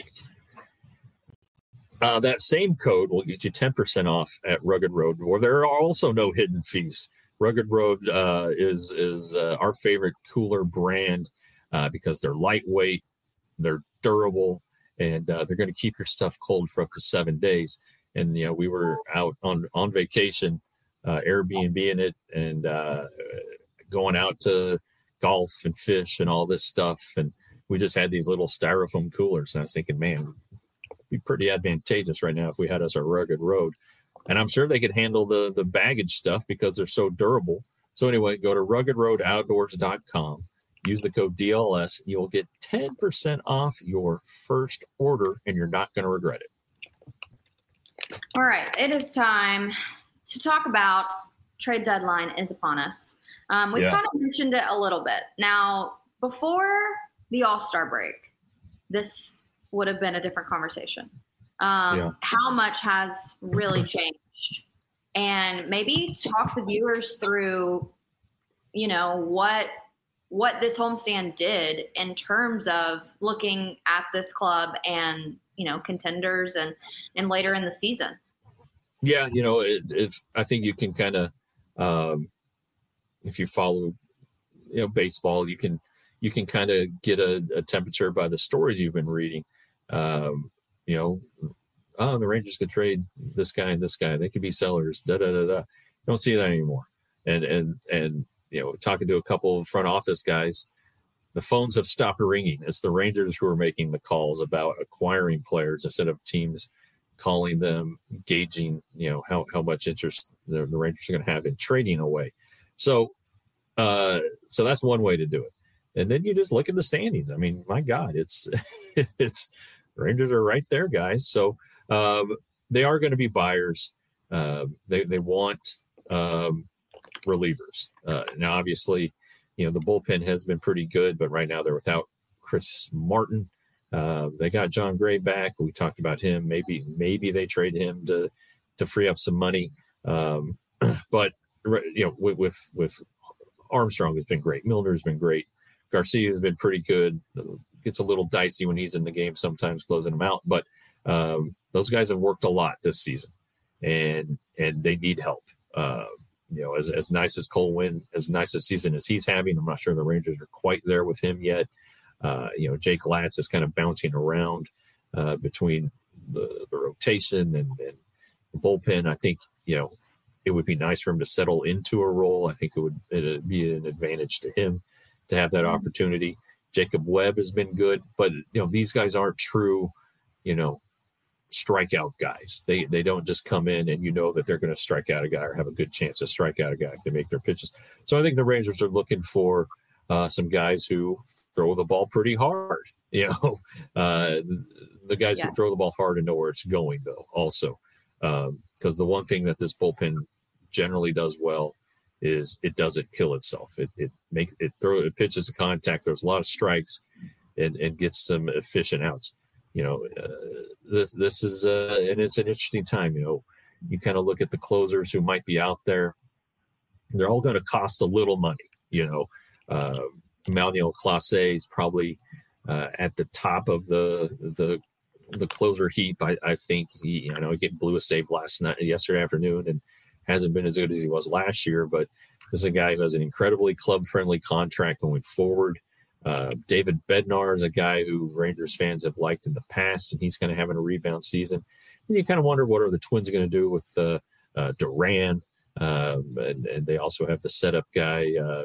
Uh, that same code will get you ten percent off at Rugged Road, where there are also no hidden fees. Rugged Road uh, is, is uh, our favorite cooler brand uh, because they're lightweight, they're durable, and uh, they're going to keep your stuff cold for up to seven days. And, you know, we were out on, on vacation, uh, Airbnb-ing it, and uh, going out to golf and fish and all this stuff. And we just had these little styrofoam coolers. And I was thinking, man, it'd be pretty advantageous right now if we had us a Rugged Road. And I'm sure they could handle the, the baggage stuff because they're so durable. So anyway, go to rugged road outdoors dot com. Use the code D L S. You'll get ten percent off your first order, and you're not going to regret it. All right, it is time to talk about trade deadline is upon us. Um, we've yeah. kind of mentioned it a little bit. Now, before the All-Star break, this would have been a different conversation. Um, yeah. How much has really changed? And maybe talk the viewers through, you know, what what this homestand did in terms of looking at this club and, you know, contenders and, and later in the season. Yeah. You know, it, if I think you can kind of, um, if you follow, you know, baseball, you can, you can kind of get a, a temperature by the stories you've been reading. Um, you know, oh, the Rangers could trade this guy and this guy. They could be sellers, da, da, da, da. You don't see that anymore. And, and, and, you know, talking to a couple of front office guys, the phones have stopped ringing. It's the Rangers who are making the calls about acquiring players instead of teams calling them, gauging, you know, how, how much interest the, the Rangers are going to have in trading away. So, uh, so that's one way to do it. And then you just look at the standings. I mean, my God, it's, it's Rangers are right there, guys. So, um, they are going to be buyers. Uh, they, they want, um, relievers. Uh, now, obviously, you know, the bullpen has been pretty good, but right now they're without Chris Martin. Uh, they got John Gray back. We talked about him. Maybe maybe they trade him to to free up some money. Um, but you know, with, with with Armstrong has been great. Milner has been great. Garcia has been pretty good. Gets a little dicey when he's in the game sometimes, closing them out. But um, those guys have worked a lot this season, and and they need help. Uh, you know, as as nice as Cole Winn, as nice a season as he's having, I'm not sure the Rangers are quite there with him yet. Uh, you know, Jake Latz is kind of bouncing around uh, between the, the rotation and, and the bullpen. I think, you know, it would be nice for him to settle into a role. I think it would it'd be an advantage to him to have that opportunity. Jacob Webb has been good, but, you know, these guys aren't true, you know, strikeout guys. They they don't just come in and you know that they're going to strike out a guy or have a good chance to strike out a guy if they make their pitches. So I think the Rangers are looking for uh, some guys who throw the ball pretty hard. You know, uh, the guys yeah. who throw the ball hard and know where it's going, though, also. Because um, the one thing that this bullpen generally does well is it doesn't kill itself. It it make it throw it pitches a contact. There's a lot of strikes, and and gets some efficient outs. You know, uh, this this is uh, and it's an interesting time. You know, you kind of look at the closers who might be out there. They're all going to cost a little money. You know, uh, Emmanuel Clase is probably uh, at the top of the the the closer heap. I, I think he, I know he blew a save last night, yesterday afternoon, and hasn't been as good as he was last year. But this is a guy who has an incredibly club-friendly contract going forward. Uh, David Bednar is a guy who Rangers fans have liked in the past, and he's kind of having a rebound season. And you kind of wonder what are the Twins going to do with uh, uh, Duran, um, and, and they also have the setup guy uh,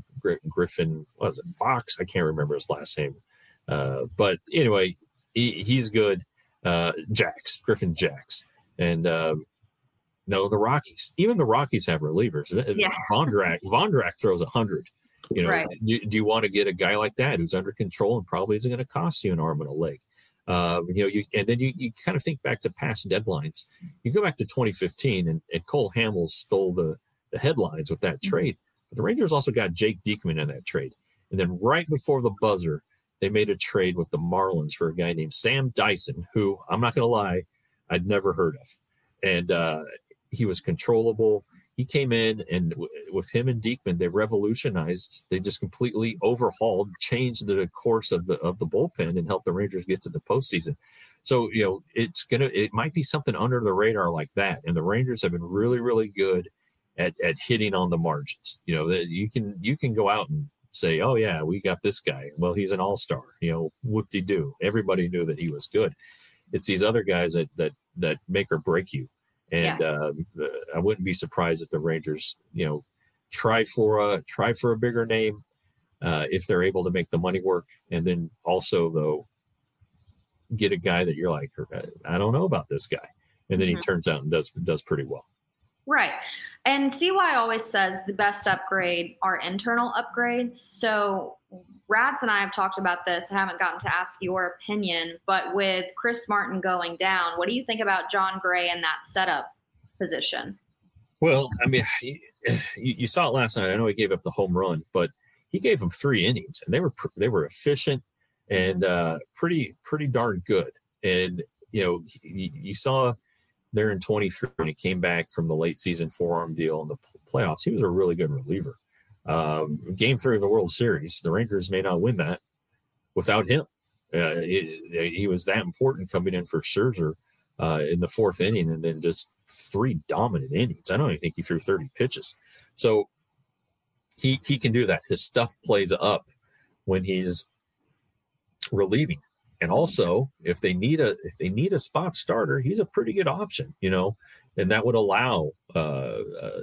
Griffin. What was it? Fox? I can't remember his last name. Uh, but anyway, he, he's good. Uh, Jacks, Griffin Jacks, and um, no, the Rockies. Even the Rockies have relievers. Yeah. Vondrack, Vondrack throws a hundred. You know, right. do, do you want to get a guy like that who's under control and probably isn't going to cost you an arm and a leg? Um, you know, you and then you, you kind of think back to past deadlines. You go back to twenty fifteen, and, and Cole Hamels stole the, the headlines with that trade. But the Rangers also got Jake Diekman in that trade. And then right before the buzzer, they made a trade with the Marlins for a guy named Sam Dyson, who, I'm not going to lie, I'd never heard of. And uh, he was controllable. He came in, and w- with him and Diekman, they revolutionized. They just completely overhauled, changed the course of the of the bullpen, and helped the Rangers get to the postseason. So, you know, it's gonna it might be something under the radar like that. And the Rangers have been really, really good at at hitting on the margins. You know, that you can you can go out and say, oh yeah, we got this guy. Well, he's an all-star. You know, whoop-de-doo. Everybody knew that he was good. It's these other guys that that that make or break you. And yeah. uh, I wouldn't be surprised if the Rangers, you know, try for a try for a bigger name uh, if they're able to make the money work, and then also though get a guy that you're like, I don't know about this guy, and then mm-hmm. he turns out and does does pretty well. Right. And C Y always says the best upgrade are internal upgrades. So Rads and I have talked about this. I haven't gotten to ask your opinion, but with Chris Martin going down, what do you think about John Gray in that setup position? Well, I mean, you, you saw it last night. I know he gave up the home run, but he gave them three innings, and they were they were efficient and uh, pretty pretty darn good. And you know, you, you saw there in twenty-three when he came back from the late season forearm deal in the playoffs. He was a really good reliever. Um, game three of the World Series, the Rangers may not win that without him. Uh, he, he was that important coming in for Scherzer uh, in the fourth inning, and then just three dominant innings. I don't even think he threw thirty pitches. So he he can do that. His stuff plays up when he's relieving. And also, if they need a if they need a spot starter, he's a pretty good option, you know, and that would allow uh, uh,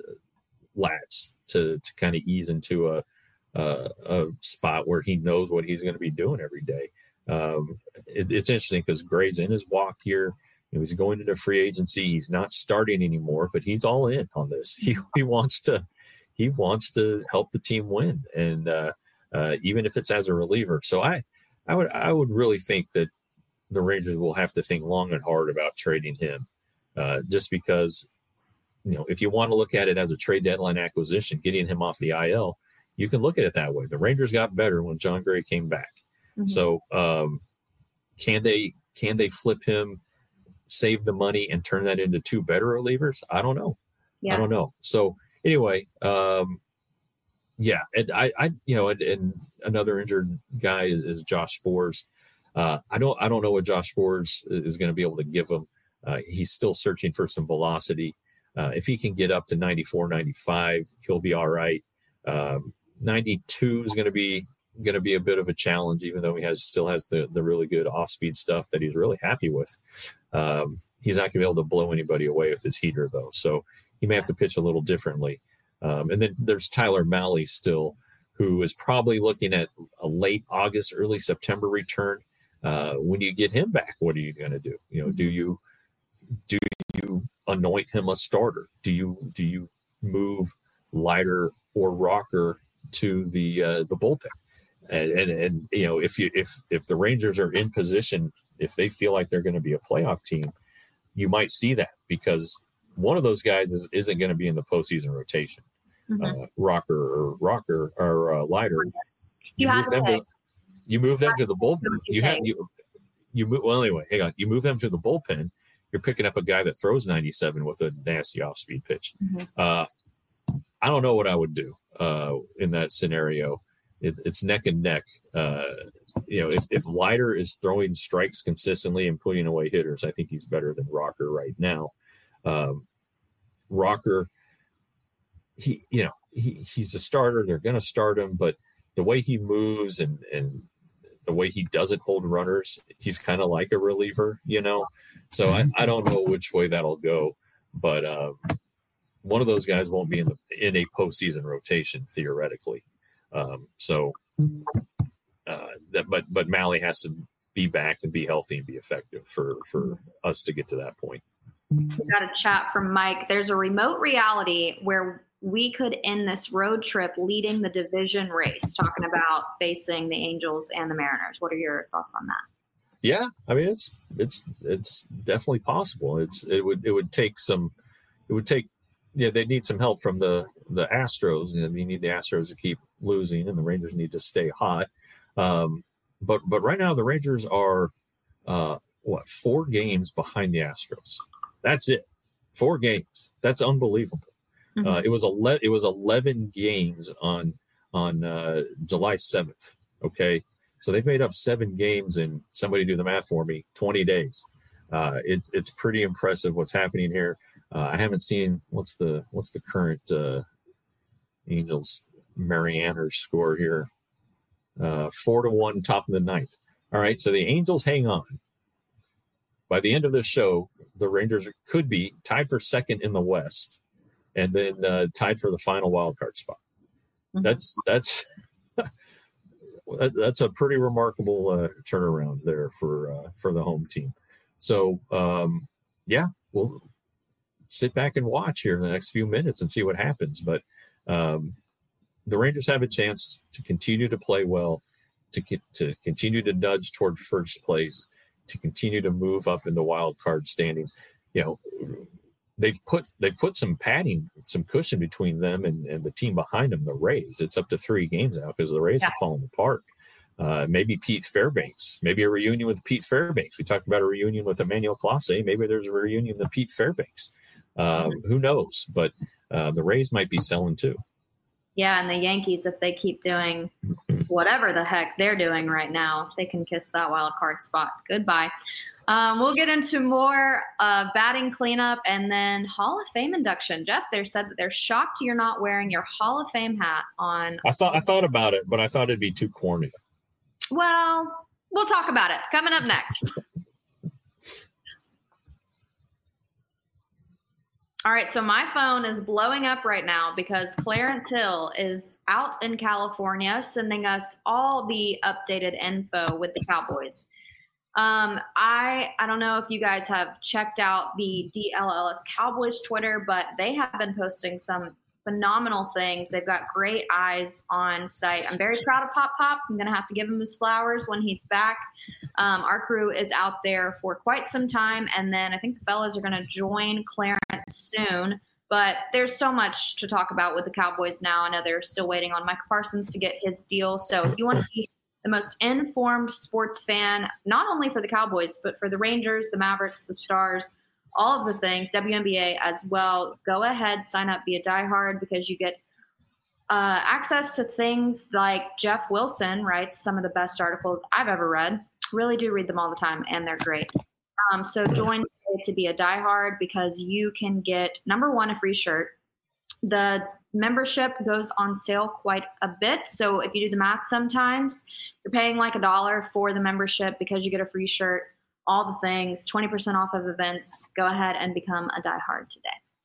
Latz to to kind of ease into a, a a spot where he knows what he's going to be doing every day. Um, it, it's interesting because Gray's in his walk year. You know, he's going into free agency. He's not starting anymore, but he's all in on this. He he wants to he wants to help the team win, and uh, uh, even if it's as a reliever. So I. I would I would really think that the Rangers will have to think long and hard about trading him, uh, just because, you know, if you want to look at it as a trade deadline acquisition, getting him off the I L, you can look at it that way. The Rangers got better when John Gray came back. Mm-hmm. So um, can they can they flip him, save the money, and turn that into two better relievers? I don't know. Yeah. I don't know. So anyway, um, yeah, and I, I, you know, and, and another injured guy is, is Josh Sborz. Uh, I don't, I don't know what Josh Sborz is going to be able to give him. Uh, he's still searching for some velocity. Uh, if he can get up to ninety-four, ninety-five, he'll be all right. Um, ninety-two is going to be going to be a bit of a challenge, even though he has still has the the really good off-speed stuff that he's really happy with. Um, he's not going to be able to blow anybody away with his heater, though. So he may have to pitch a little differently. Um, and then there's Tyler Mahle still, who is probably looking at a late August, early September return. Uh, when you get him back, what are you going to do? You know, do you do you anoint him a starter? Do you do you move Leiter or Rocker to the uh, the bullpen? And, and and you know, if you if if the Rangers are in position, if they feel like they're going to be a playoff team, you might see that, because one of those guys is, isn't going to be in the postseason rotation. Mm-hmm. Uh, Rocker or Rocker or uh, Leiter. You, you have them to, to you move them to the bullpen. You, you have you you move well anyway. Hang on, you move them to the bullpen. You're picking up a guy that throws ninety-seven with a nasty off-speed pitch. Mm-hmm. Uh, I don't know what I would do uh, in that scenario. It, it's neck and neck. Uh, you know, if, if Leiter is throwing strikes consistently and putting away hitters, I think he's better than Rocker right now. Um, Rocker, he, you know, he, he's a starter. They're going to start him, but the way he moves and, and the way he doesn't hold runners, he's kind of like a reliever, you know? So I, I don't know which way that'll go, but um, one of those guys won't be in the, in a postseason rotation theoretically. Um, so, uh, that, but, but Mahle has to be back and be healthy and be effective for, for us to get to that point. We got a chat from Mike. There's a remote reality where we could end this road trip leading the division race, talking about facing the Angels and the Mariners. What are your thoughts on that? Yeah. I mean, it's, it's, it's definitely possible. It's, it would, it would take some, it would take, yeah, they need some help from the, the Astros. You know, you need the Astros to keep losing, and the Rangers need to stay hot. Um, but, but right now the Rangers are, uh, what, four games behind the Astros. That's it. Four games. That's unbelievable. Mm-hmm. Uh, it was ele- It was eleven games on on uh, July seventh. Okay, so they've made up seven games in, somebody do the math for me, twenty days. Uh, it's it's pretty impressive what's happening here. Uh, I haven't seen what's the what's the current uh, Angels Marianners score here. Uh, four to one, top of the ninth. All right, so the Angels hang on. By the end of this show, the Rangers could be tied for second in the West, and then uh, tied for the final wild card spot. Mm-hmm. That's that's that's a pretty remarkable uh, turnaround there for uh, for the home team. So um, yeah, we'll sit back and watch here in the next few minutes and see what happens. But um, the Rangers have a chance to continue to play well, to to continue to nudge toward first place, to continue to move up in the wild card standings. You know, they've put they've put some padding, some cushion between them and, and the team behind them, the Rays. It's up to three games now because the Rays yeah. have fallen apart. Uh, maybe Pete Fairbanks, maybe a reunion with Pete Fairbanks. We talked about a reunion with Emmanuel Clase. Maybe there's a reunion with Pete Fairbanks. Um, who knows? But uh, the Rays might be selling too. Yeah, and the Yankees, if they keep doing whatever the heck they're doing right now, they can kiss that wild card spot goodbye. Um, we'll get into more uh, batting cleanup and then Hall of Fame induction. Jeff, they said that they're shocked you're not wearing your Hall of Fame hat on. I thought I thought about it, but I thought it'd be too corny. Well, we'll talk about it. Coming up next. All right, so my phone is blowing up right now because Clarence Hill is out in California sending us all the updated info with the Cowboys. Um, I I don't know if you guys have checked out the D L L S Cowboys Twitter, but they have been posting some phenomenal things. They've got great eyes on site. I'm very proud of Pop Pop. I'm going to have to give him his flowers when he's back. Um, our crew is out there for quite some time, and then I think the fellas are going to join Clarence soon But there's so much to talk about with the Cowboys now. I know they're still waiting on Micah Parsons to get his deal. So if you want to be the most informed sports fan, not only for the Cowboys, but for the Rangers, the Mavericks, the Stars, all of the things, W N B A as well, go ahead, sign up, be a diehard, because you get uh, access to things like Jeff Wilson writes some of the best articles I've ever read. Really do read them all the time, and they're great. Um, so join today to be a diehard, because you can get, number one, a free shirt. The membership goes on sale quite a bit. So if you do the math, sometimes you're paying like a dollar for the membership because you get a free shirt, all the things, twenty percent off of events. Go ahead and become a diehard today.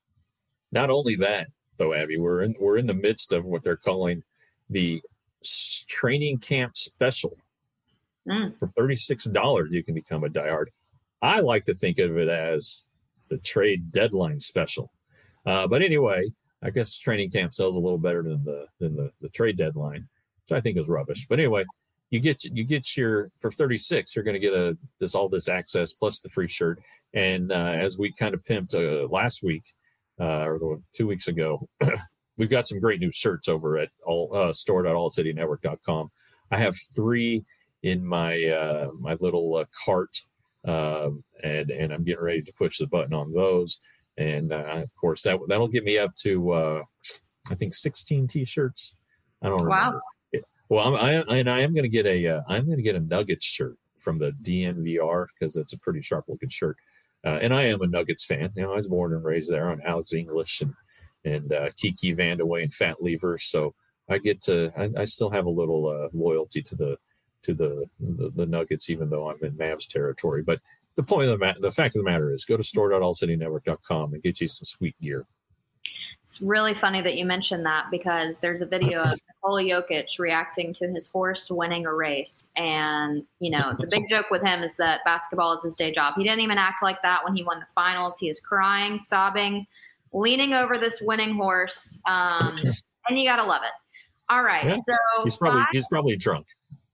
Not only that, though, Abby, we're in, we're in the midst of what they're calling the training camp special. Mm. For thirty-six dollars, you can become a diehard. I like to think of it as the trade deadline special. Uh, but anyway, I guess training camp sells a little better than the than the, the trade deadline, which I think is rubbish. But anyway, you get you get your for thirty-six, you're going to get a this all this access plus the free shirt. And uh, as we kind of pimped uh, last week uh, or two weeks ago, we've got some great new shirts over at all uh, store dot all city network dot com. I have three in my uh, my little uh, cart. Um, and, and I'm getting ready to push the button on those. And, uh, of course, that, that'll get me up to, uh, I think, sixteen T-shirts. I don't remember. Wow. Well, I'm, I, and I am going to get a, uh, I'm going to get a Nuggets shirt from the D N V R, because it's a pretty sharp looking shirt. Uh, and I am a Nuggets fan. You know, I was born and raised there on Alex English and, and, uh, Kiki Vandeweghe and Fat Lever. So I get to, I, I still have a little, uh, loyalty to the, to the, the the Nuggets, even though I'm in Mavs territory. But the point of the matter, the fact of the matter is, go to store dot all city network dot com and get you some sweet gear. It's really funny that you mentioned that, because there's a video of Nikola Jokic reacting to his horse winning a race. And, you know, the big joke with him is that basketball is his day job. He didn't even act like that when he won the finals. He is crying, sobbing, leaning over this winning horse. Um, and you got to love it. All right. Yeah. So he's probably, five, he's probably drunk.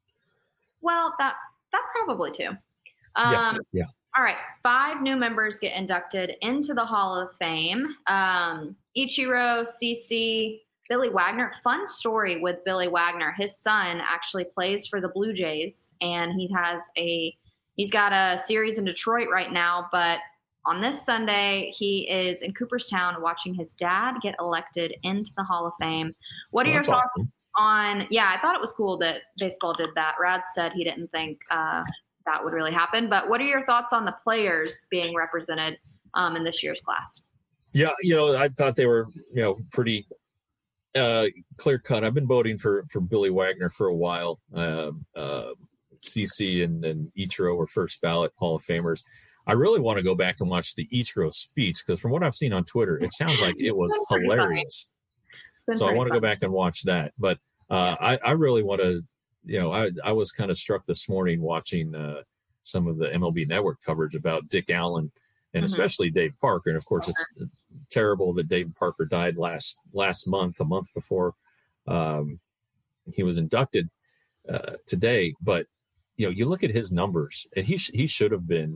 Well, that that probably too. Um, yeah, yeah. All right. Five new members get inducted into the Hall of Fame. Um, Ichiro, Cece, Billy Wagner. Fun story with Billy Wagner. His son actually plays for the Blue Jays, and he has a he's got a series in Detroit right now. But on this Sunday, he is in Cooperstown watching his dad get elected into the Hall of Fame. What are oh, your thoughts? Awesome. On yeah, I thought it was cool that baseball did that. Rad said he didn't think uh, that would really happen. But what are your thoughts on the players being represented um, in this year's class? Yeah, you know, I thought they were, you know, pretty uh, clear cut. I've been voting for for Billy Wagner for a while. Uh, uh, C C and, and Ichiro were first ballot Hall of Famers. I really want to go back and watch the Ichiro speech, because from what I've seen on Twitter, it sounds like it was hilarious. So I want to go back and watch that. But uh, I, I really want to, you know, I, I was kind of struck this morning watching uh, some of the M L B Network coverage about Dick Allen and mm-hmm. especially Dave Parker. And, of course, it's terrible that Dave Parker died last last month, a month before um, he was inducted uh, today. But, you know, you look at his numbers, and he, sh- he should have been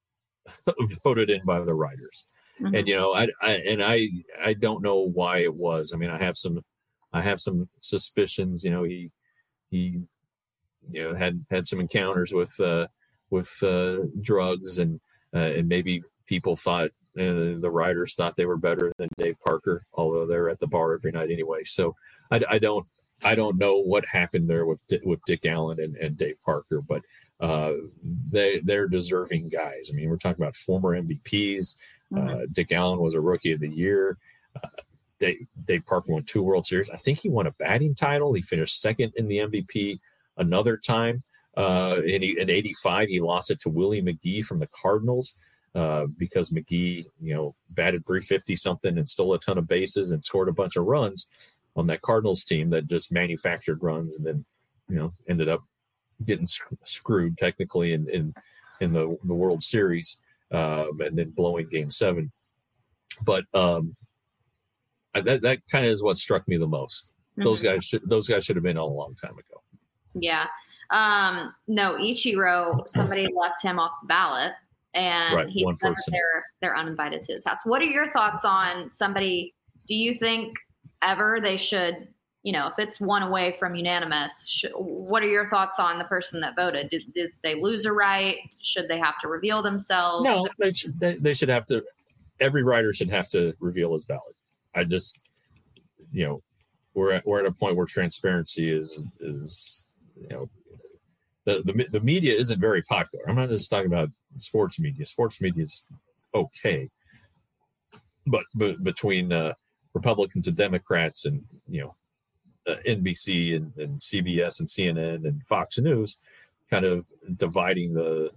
voted in by the writers. Mm-hmm. And, you know, I, I, and I, I don't know why it was. I mean, I have some, I have some suspicions, you know, he, he, you know, had, had some encounters with, uh, with, uh, drugs and, uh, and maybe people thought, uh, the writers thought they were better than Dave Parker, although they're at the bar every night anyway. So I, I don't, I don't know what happened there with, with Dick Allen and, and Dave Parker, but, uh, they, they're deserving guys. I mean, we're talking about former M V Ps. Mm-hmm. Uh, Dick Allen was a Rookie of the Year. Uh, Dave, Dave Parker won two World Series. I think he won a batting title. He finished second in the M V P another time. Uh, in, in eighty-five, he lost it to Willie McGee from the Cardinals uh, because McGee, you know, batted three fifty something and stole a ton of bases and scored a bunch of runs on that Cardinals team that just manufactured runs and then, you know, ended up getting sc- screwed technically in, in, in the, the World Series. Um, and then blowing game seven. But um, that that kind of is what struck me the most. Mm-hmm. Those guys should those guys should have been on a long time ago. Yeah. Um, no, Ichiro, somebody left him off the ballot. and right, he's one never person. they're they're uninvited to his house. What are your thoughts on somebody? Do you think ever they should, you know, if it's one away from unanimous, sh- what are your thoughts on the person that voted? Did, did they lose a right? Should they have to reveal themselves? No, they should, they, they should have to. Every writer should have to reveal his ballot. I just, you know, we're at, we're at a point where transparency is is you know the, the the media isn't very popular. I'm not just talking about sports media. Sports media is okay, but but between uh, Republicans and Democrats, and you know, uh, N B C and, and C B S and C N N and Fox News, kind of dividing the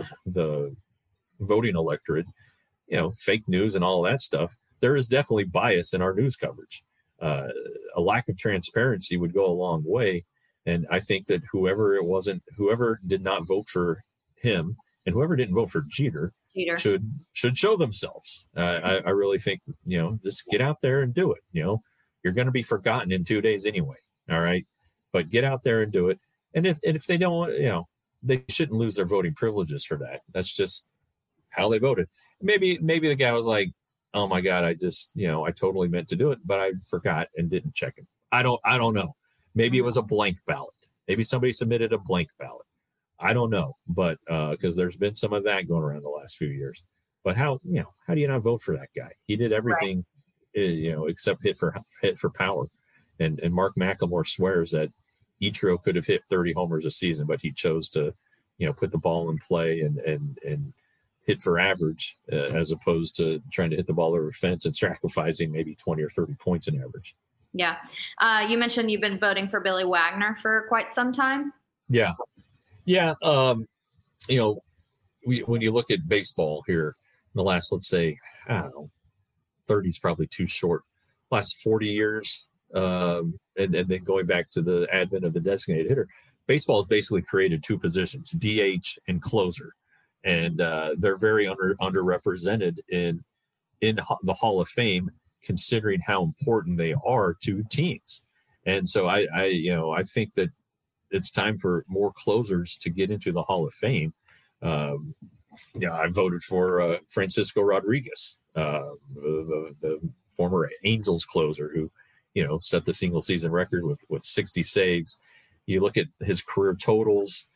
the voting electorate, you know, fake news and all of that stuff. There is definitely bias in our news coverage. Uh, a lack of transparency would go a long way. And I think that whoever it wasn't, whoever did not vote for him and whoever didn't vote for Jeter, Jeter. should should show themselves. Uh, I, I really think, you know, just get out there and do it. You know, you're going to be forgotten in two days anyway. All right. But get out there and do it. And if, and if they don't, you know, they shouldn't lose their voting privileges for that. That's just how they voted. Maybe, maybe the guy was like, oh my God, I just, you know, I totally meant to do it, but I forgot and didn't check it. I don't, I don't know. Maybe it was a blank ballot. Maybe somebody submitted a blank ballot. I don't know, but uh, because there's been some of that going around the last few years. But how, you know, how do you not vote for that guy? He did everything, right. uh, you know, except hit for hit for power. And and Mark McLemore swears that Ichiro could have hit thirty homers a season, but he chose to, you know, put the ball in play and and and hit for average uh, as opposed to trying to hit the ball over a fence and sacrificing maybe twenty or thirty points in average. Yeah. Uh, you mentioned you've been voting for Billy Wagner for quite some time. Yeah. Yeah. Um, you know, we, when you look at baseball here in the last, let's say, I don't know, thirty is probably too short. Last forty years, um, and, and then going back to the advent of the designated hitter, baseball has basically created two positions, D H and closer. And uh, they're very under underrepresented in in the Hall of Fame, considering how important they are to teams. And so I, I, you know, I think that it's time for more closers to get into the Hall of Fame. Um, yeah, I voted for uh, Francisco Rodriguez, uh, the, the former Angels closer who, you know, set the single season record with with sixty saves. You look at his career totals.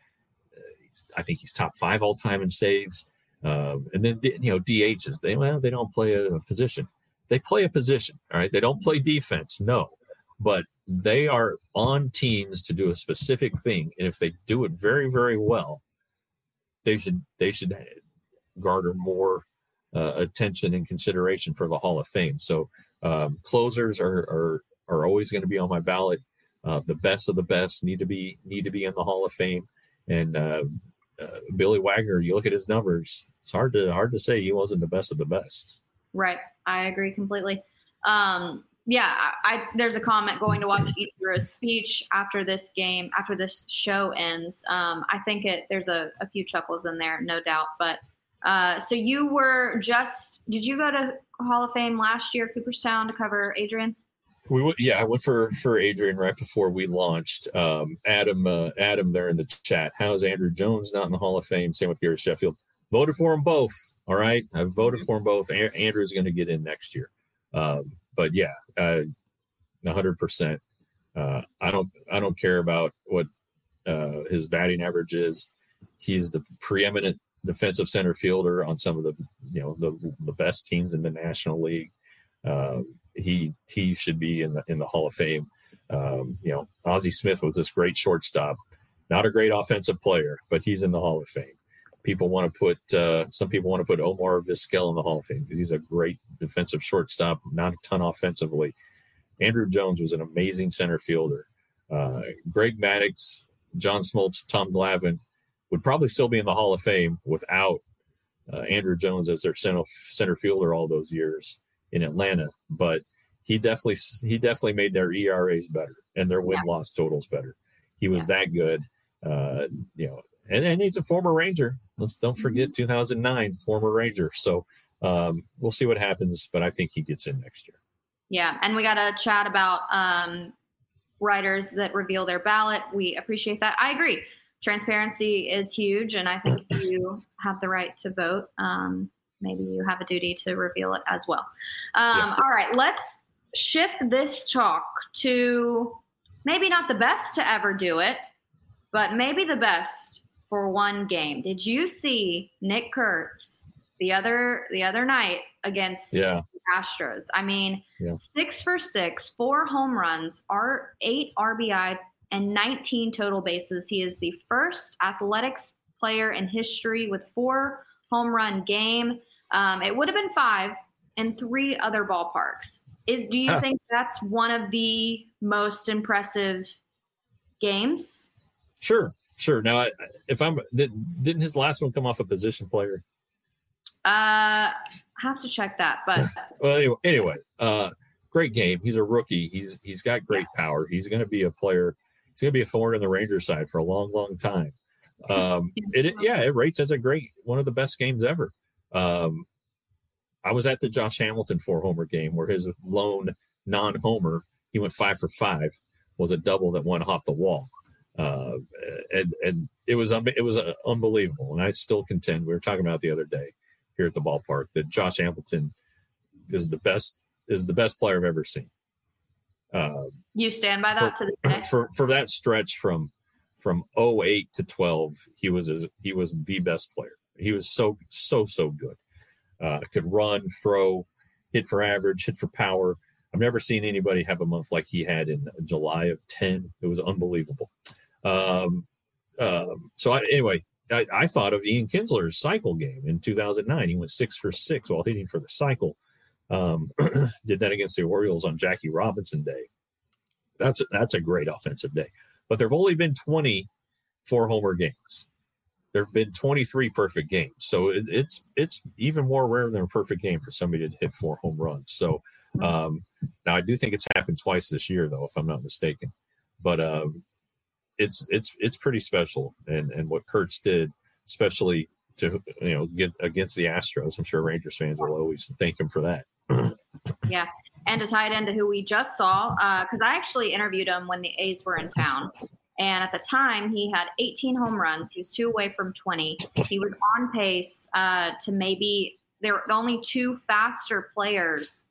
I think he's top five all time in saves. Um, and then, you know, D Hs, they, well, they don't play a, a position. They play a position. All right. They don't play defense. No, but they are on teams to do a specific thing. And if they do it very, very well, they should, they should garner more uh, attention and consideration for the Hall of Fame. So um, closers are, are, are always going to be on my ballot. Uh, the best of the best need to be, need to be in the Hall of Fame. And uh, uh, Billy Wagner, you look at his numbers, it's hard to hard to say he wasn't the best of the best. Right. I agree completely. Um, yeah, I, I, there's a comment going to watch Ichiro's speech after this game, after this show ends. Um, I think it there's a, a few chuckles in there, no doubt. But uh, so you were just, did you go to Hall of Fame last year, Cooperstown, to cover Adrian? We went, yeah, I went for, for Adrian right before we launched. Um, Adam, uh, Adam, there in the chat. How's Andrew Jones not in the Hall of Fame? Same with Gary Sheffield. Voted for them both. All right, I voted for them both. A- Andrew's going to get in next year. Um, but yeah, uh, one hundred percent. Uh, I don't, I don't care about what uh, his batting average is. He's the preeminent defensive center fielder on some of the, you know, the the best teams in the National League. Um, he he should be in the in the Hall of Fame. Um, you know, Ozzie Smith was this great shortstop, not a great offensive player, but he's in the Hall of Fame. People want to put uh, some people want to put Omar Vizquel in the Hall of Fame because he's a great defensive shortstop, not a ton offensively. Andrew Jones was an amazing center fielder. Uh, Greg Maddux, John Smoltz, Tom Glavine would probably still be in the Hall of Fame without uh, Andrew Jones as their center center fielder all those years in Atlanta. But he definitely he definitely made their E R As better and their win loss totals better. He was yeah. that good, uh, you know. And, and he's a former Ranger. Let's don't forget two thousand nine former Ranger. So um, we'll see what happens, but I think he gets in next year. Yeah, and we got to chat about um, writers that reveal their ballot. We appreciate that. I agree. transparency is huge, and I think if you have the right to vote, um, maybe you have a duty to reveal it as well. Um, yeah. All right, let's shift this talk to maybe not the best to ever do it, but maybe the best for one game. Did you see Nick Kurtz the other the other night against yeah. the Astros? I mean, yeah. six for six, four home runs, R eight R B I, and nineteen total bases. He is the first athletics player in history with four home run game. Um, it would have been five in three other ballparks. Is do you huh. think that's one of the most impressive games? Sure, sure. Now, if I'm didn't his last one come off a position player? Uh, I have to check that, but well, anyway, anyway, uh, great game. He's a rookie. He's he's got great yeah. power. He's going to be a player. He's going to be a thorn in the Rangers side for a long, long time. Um, it, it yeah, it rates as a great one of the best games ever. Um, I was at the Josh Hamilton four homer game where his lone non-homer, he went five for five, was a double that went off the wall. Uh, and, and it was, it was uh, unbelievable. And I still contend, we were talking about it the other day here at the ballpark, that Josh Hamilton is the best, is the best player I've ever seen. Uh, you stand by that for, to this day? For, for that stretch from, from oh eight to twelve, he was, as, he was the best player. He was so, so, so good. Uh, could run, throw, hit for average, hit for power. I've never seen anybody have a month like he had in July of ten. It was unbelievable. Um, um, so I, anyway, I, I thought of Ian Kinsler's cycle game in two thousand nine. He went six for six while hitting for the cycle. Um, did that against the Orioles on Jackie Robinson Day. That's a, that's a great offensive day. But there have only been twenty four-homer games. There have been twenty-three perfect games. So it, it's it's even more rare than a perfect game for somebody to hit four home runs. So um, now I do think it's happened twice this year, though, if I'm not mistaken. But um, it's it's it's pretty special. And and what Kurtz did, especially to you know get against the Astros, I'm sure Rangers fans will always thank him for that. Yeah, and to tie it into who we just saw, because uh, I actually interviewed him when the A's were in town. And at the time, he had eighteen home runs. He was two away from twenty. He was on pace uh, to maybe – there were only two faster players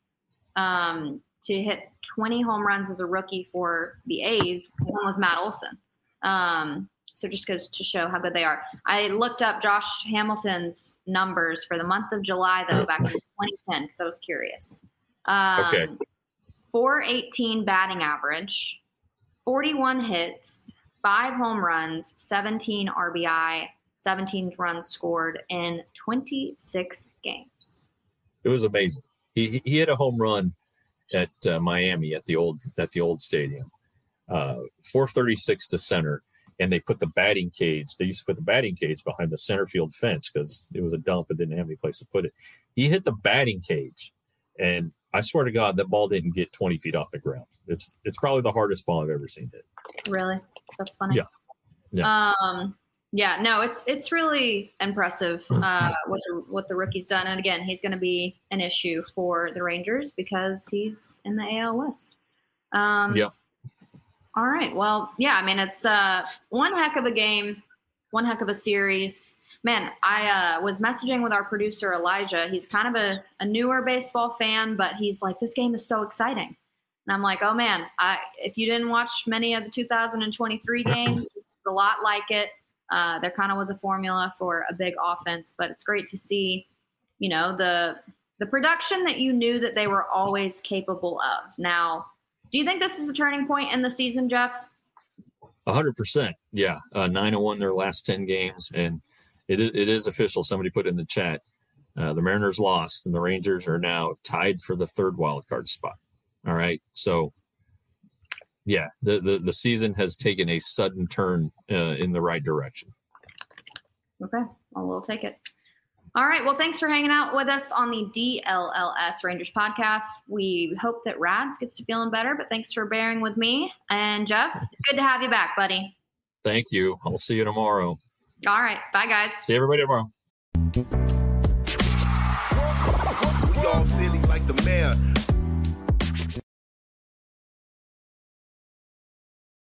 um, to hit twenty home runs as a rookie for the A's. One was Matt Olson. Um, so just goes to show how good they are. I looked up Josh Hamilton's numbers for the month of July, though, back in twenty ten, because I was curious. Um, okay. four eighteen batting average, forty-one hits, five home runs, seventeen R B I, seventeen runs scored in twenty-six games. It was amazing. He he hit a home run at uh, Miami at the old at the old stadium, uh, four thirty-six to center, and they put the batting cage. They used to put the batting cage behind the center field fence because it was a dump and didn't have any place to put it. He hit the batting cage, and I swear to God, that ball didn't get twenty feet off the ground. It's it's probably the hardest ball I've ever seen hit. Really? That's funny. Yeah. Yeah. Um, yeah, no, it's it's really impressive uh, what the what the rookie's done. And again, he's going to be an issue for the Rangers because he's in the A L West. Um, yeah. All right. Well, yeah, I mean, it's uh, one heck of a game, one heck of a series. Man, I uh, was messaging with our producer, Elijah. He's kind of a, a newer baseball fan, but he's like, this game is so exciting. And I'm like, oh, man, I, if you didn't watch many of the two thousand twenty-three games, it's a lot like it. Uh, there kind of was a formula for a big offense, but it's great to see, you know, the the production that you knew that they were always capable of. Now, do you think this is a turning point in the season, Jeff? A hundred percent. Yeah. Uh, nine and one their last ten games. And it, it is official. Somebody put in the chat. Uh, the Mariners lost and the Rangers are now tied for the third wild card spot. All right. So, yeah, the, the, the season has taken a sudden turn uh, in the right direction. Okay. Well, we'll take it. All right. Well, thanks for hanging out with us on the D L L S Rangers podcast. We hope that Rads gets to feeling better, but thanks for bearing with me. And Jeff, good to have you back, buddy. Thank you. I'll see you tomorrow. All right. Bye, guys. See everybody tomorrow. We all silly like the mayor.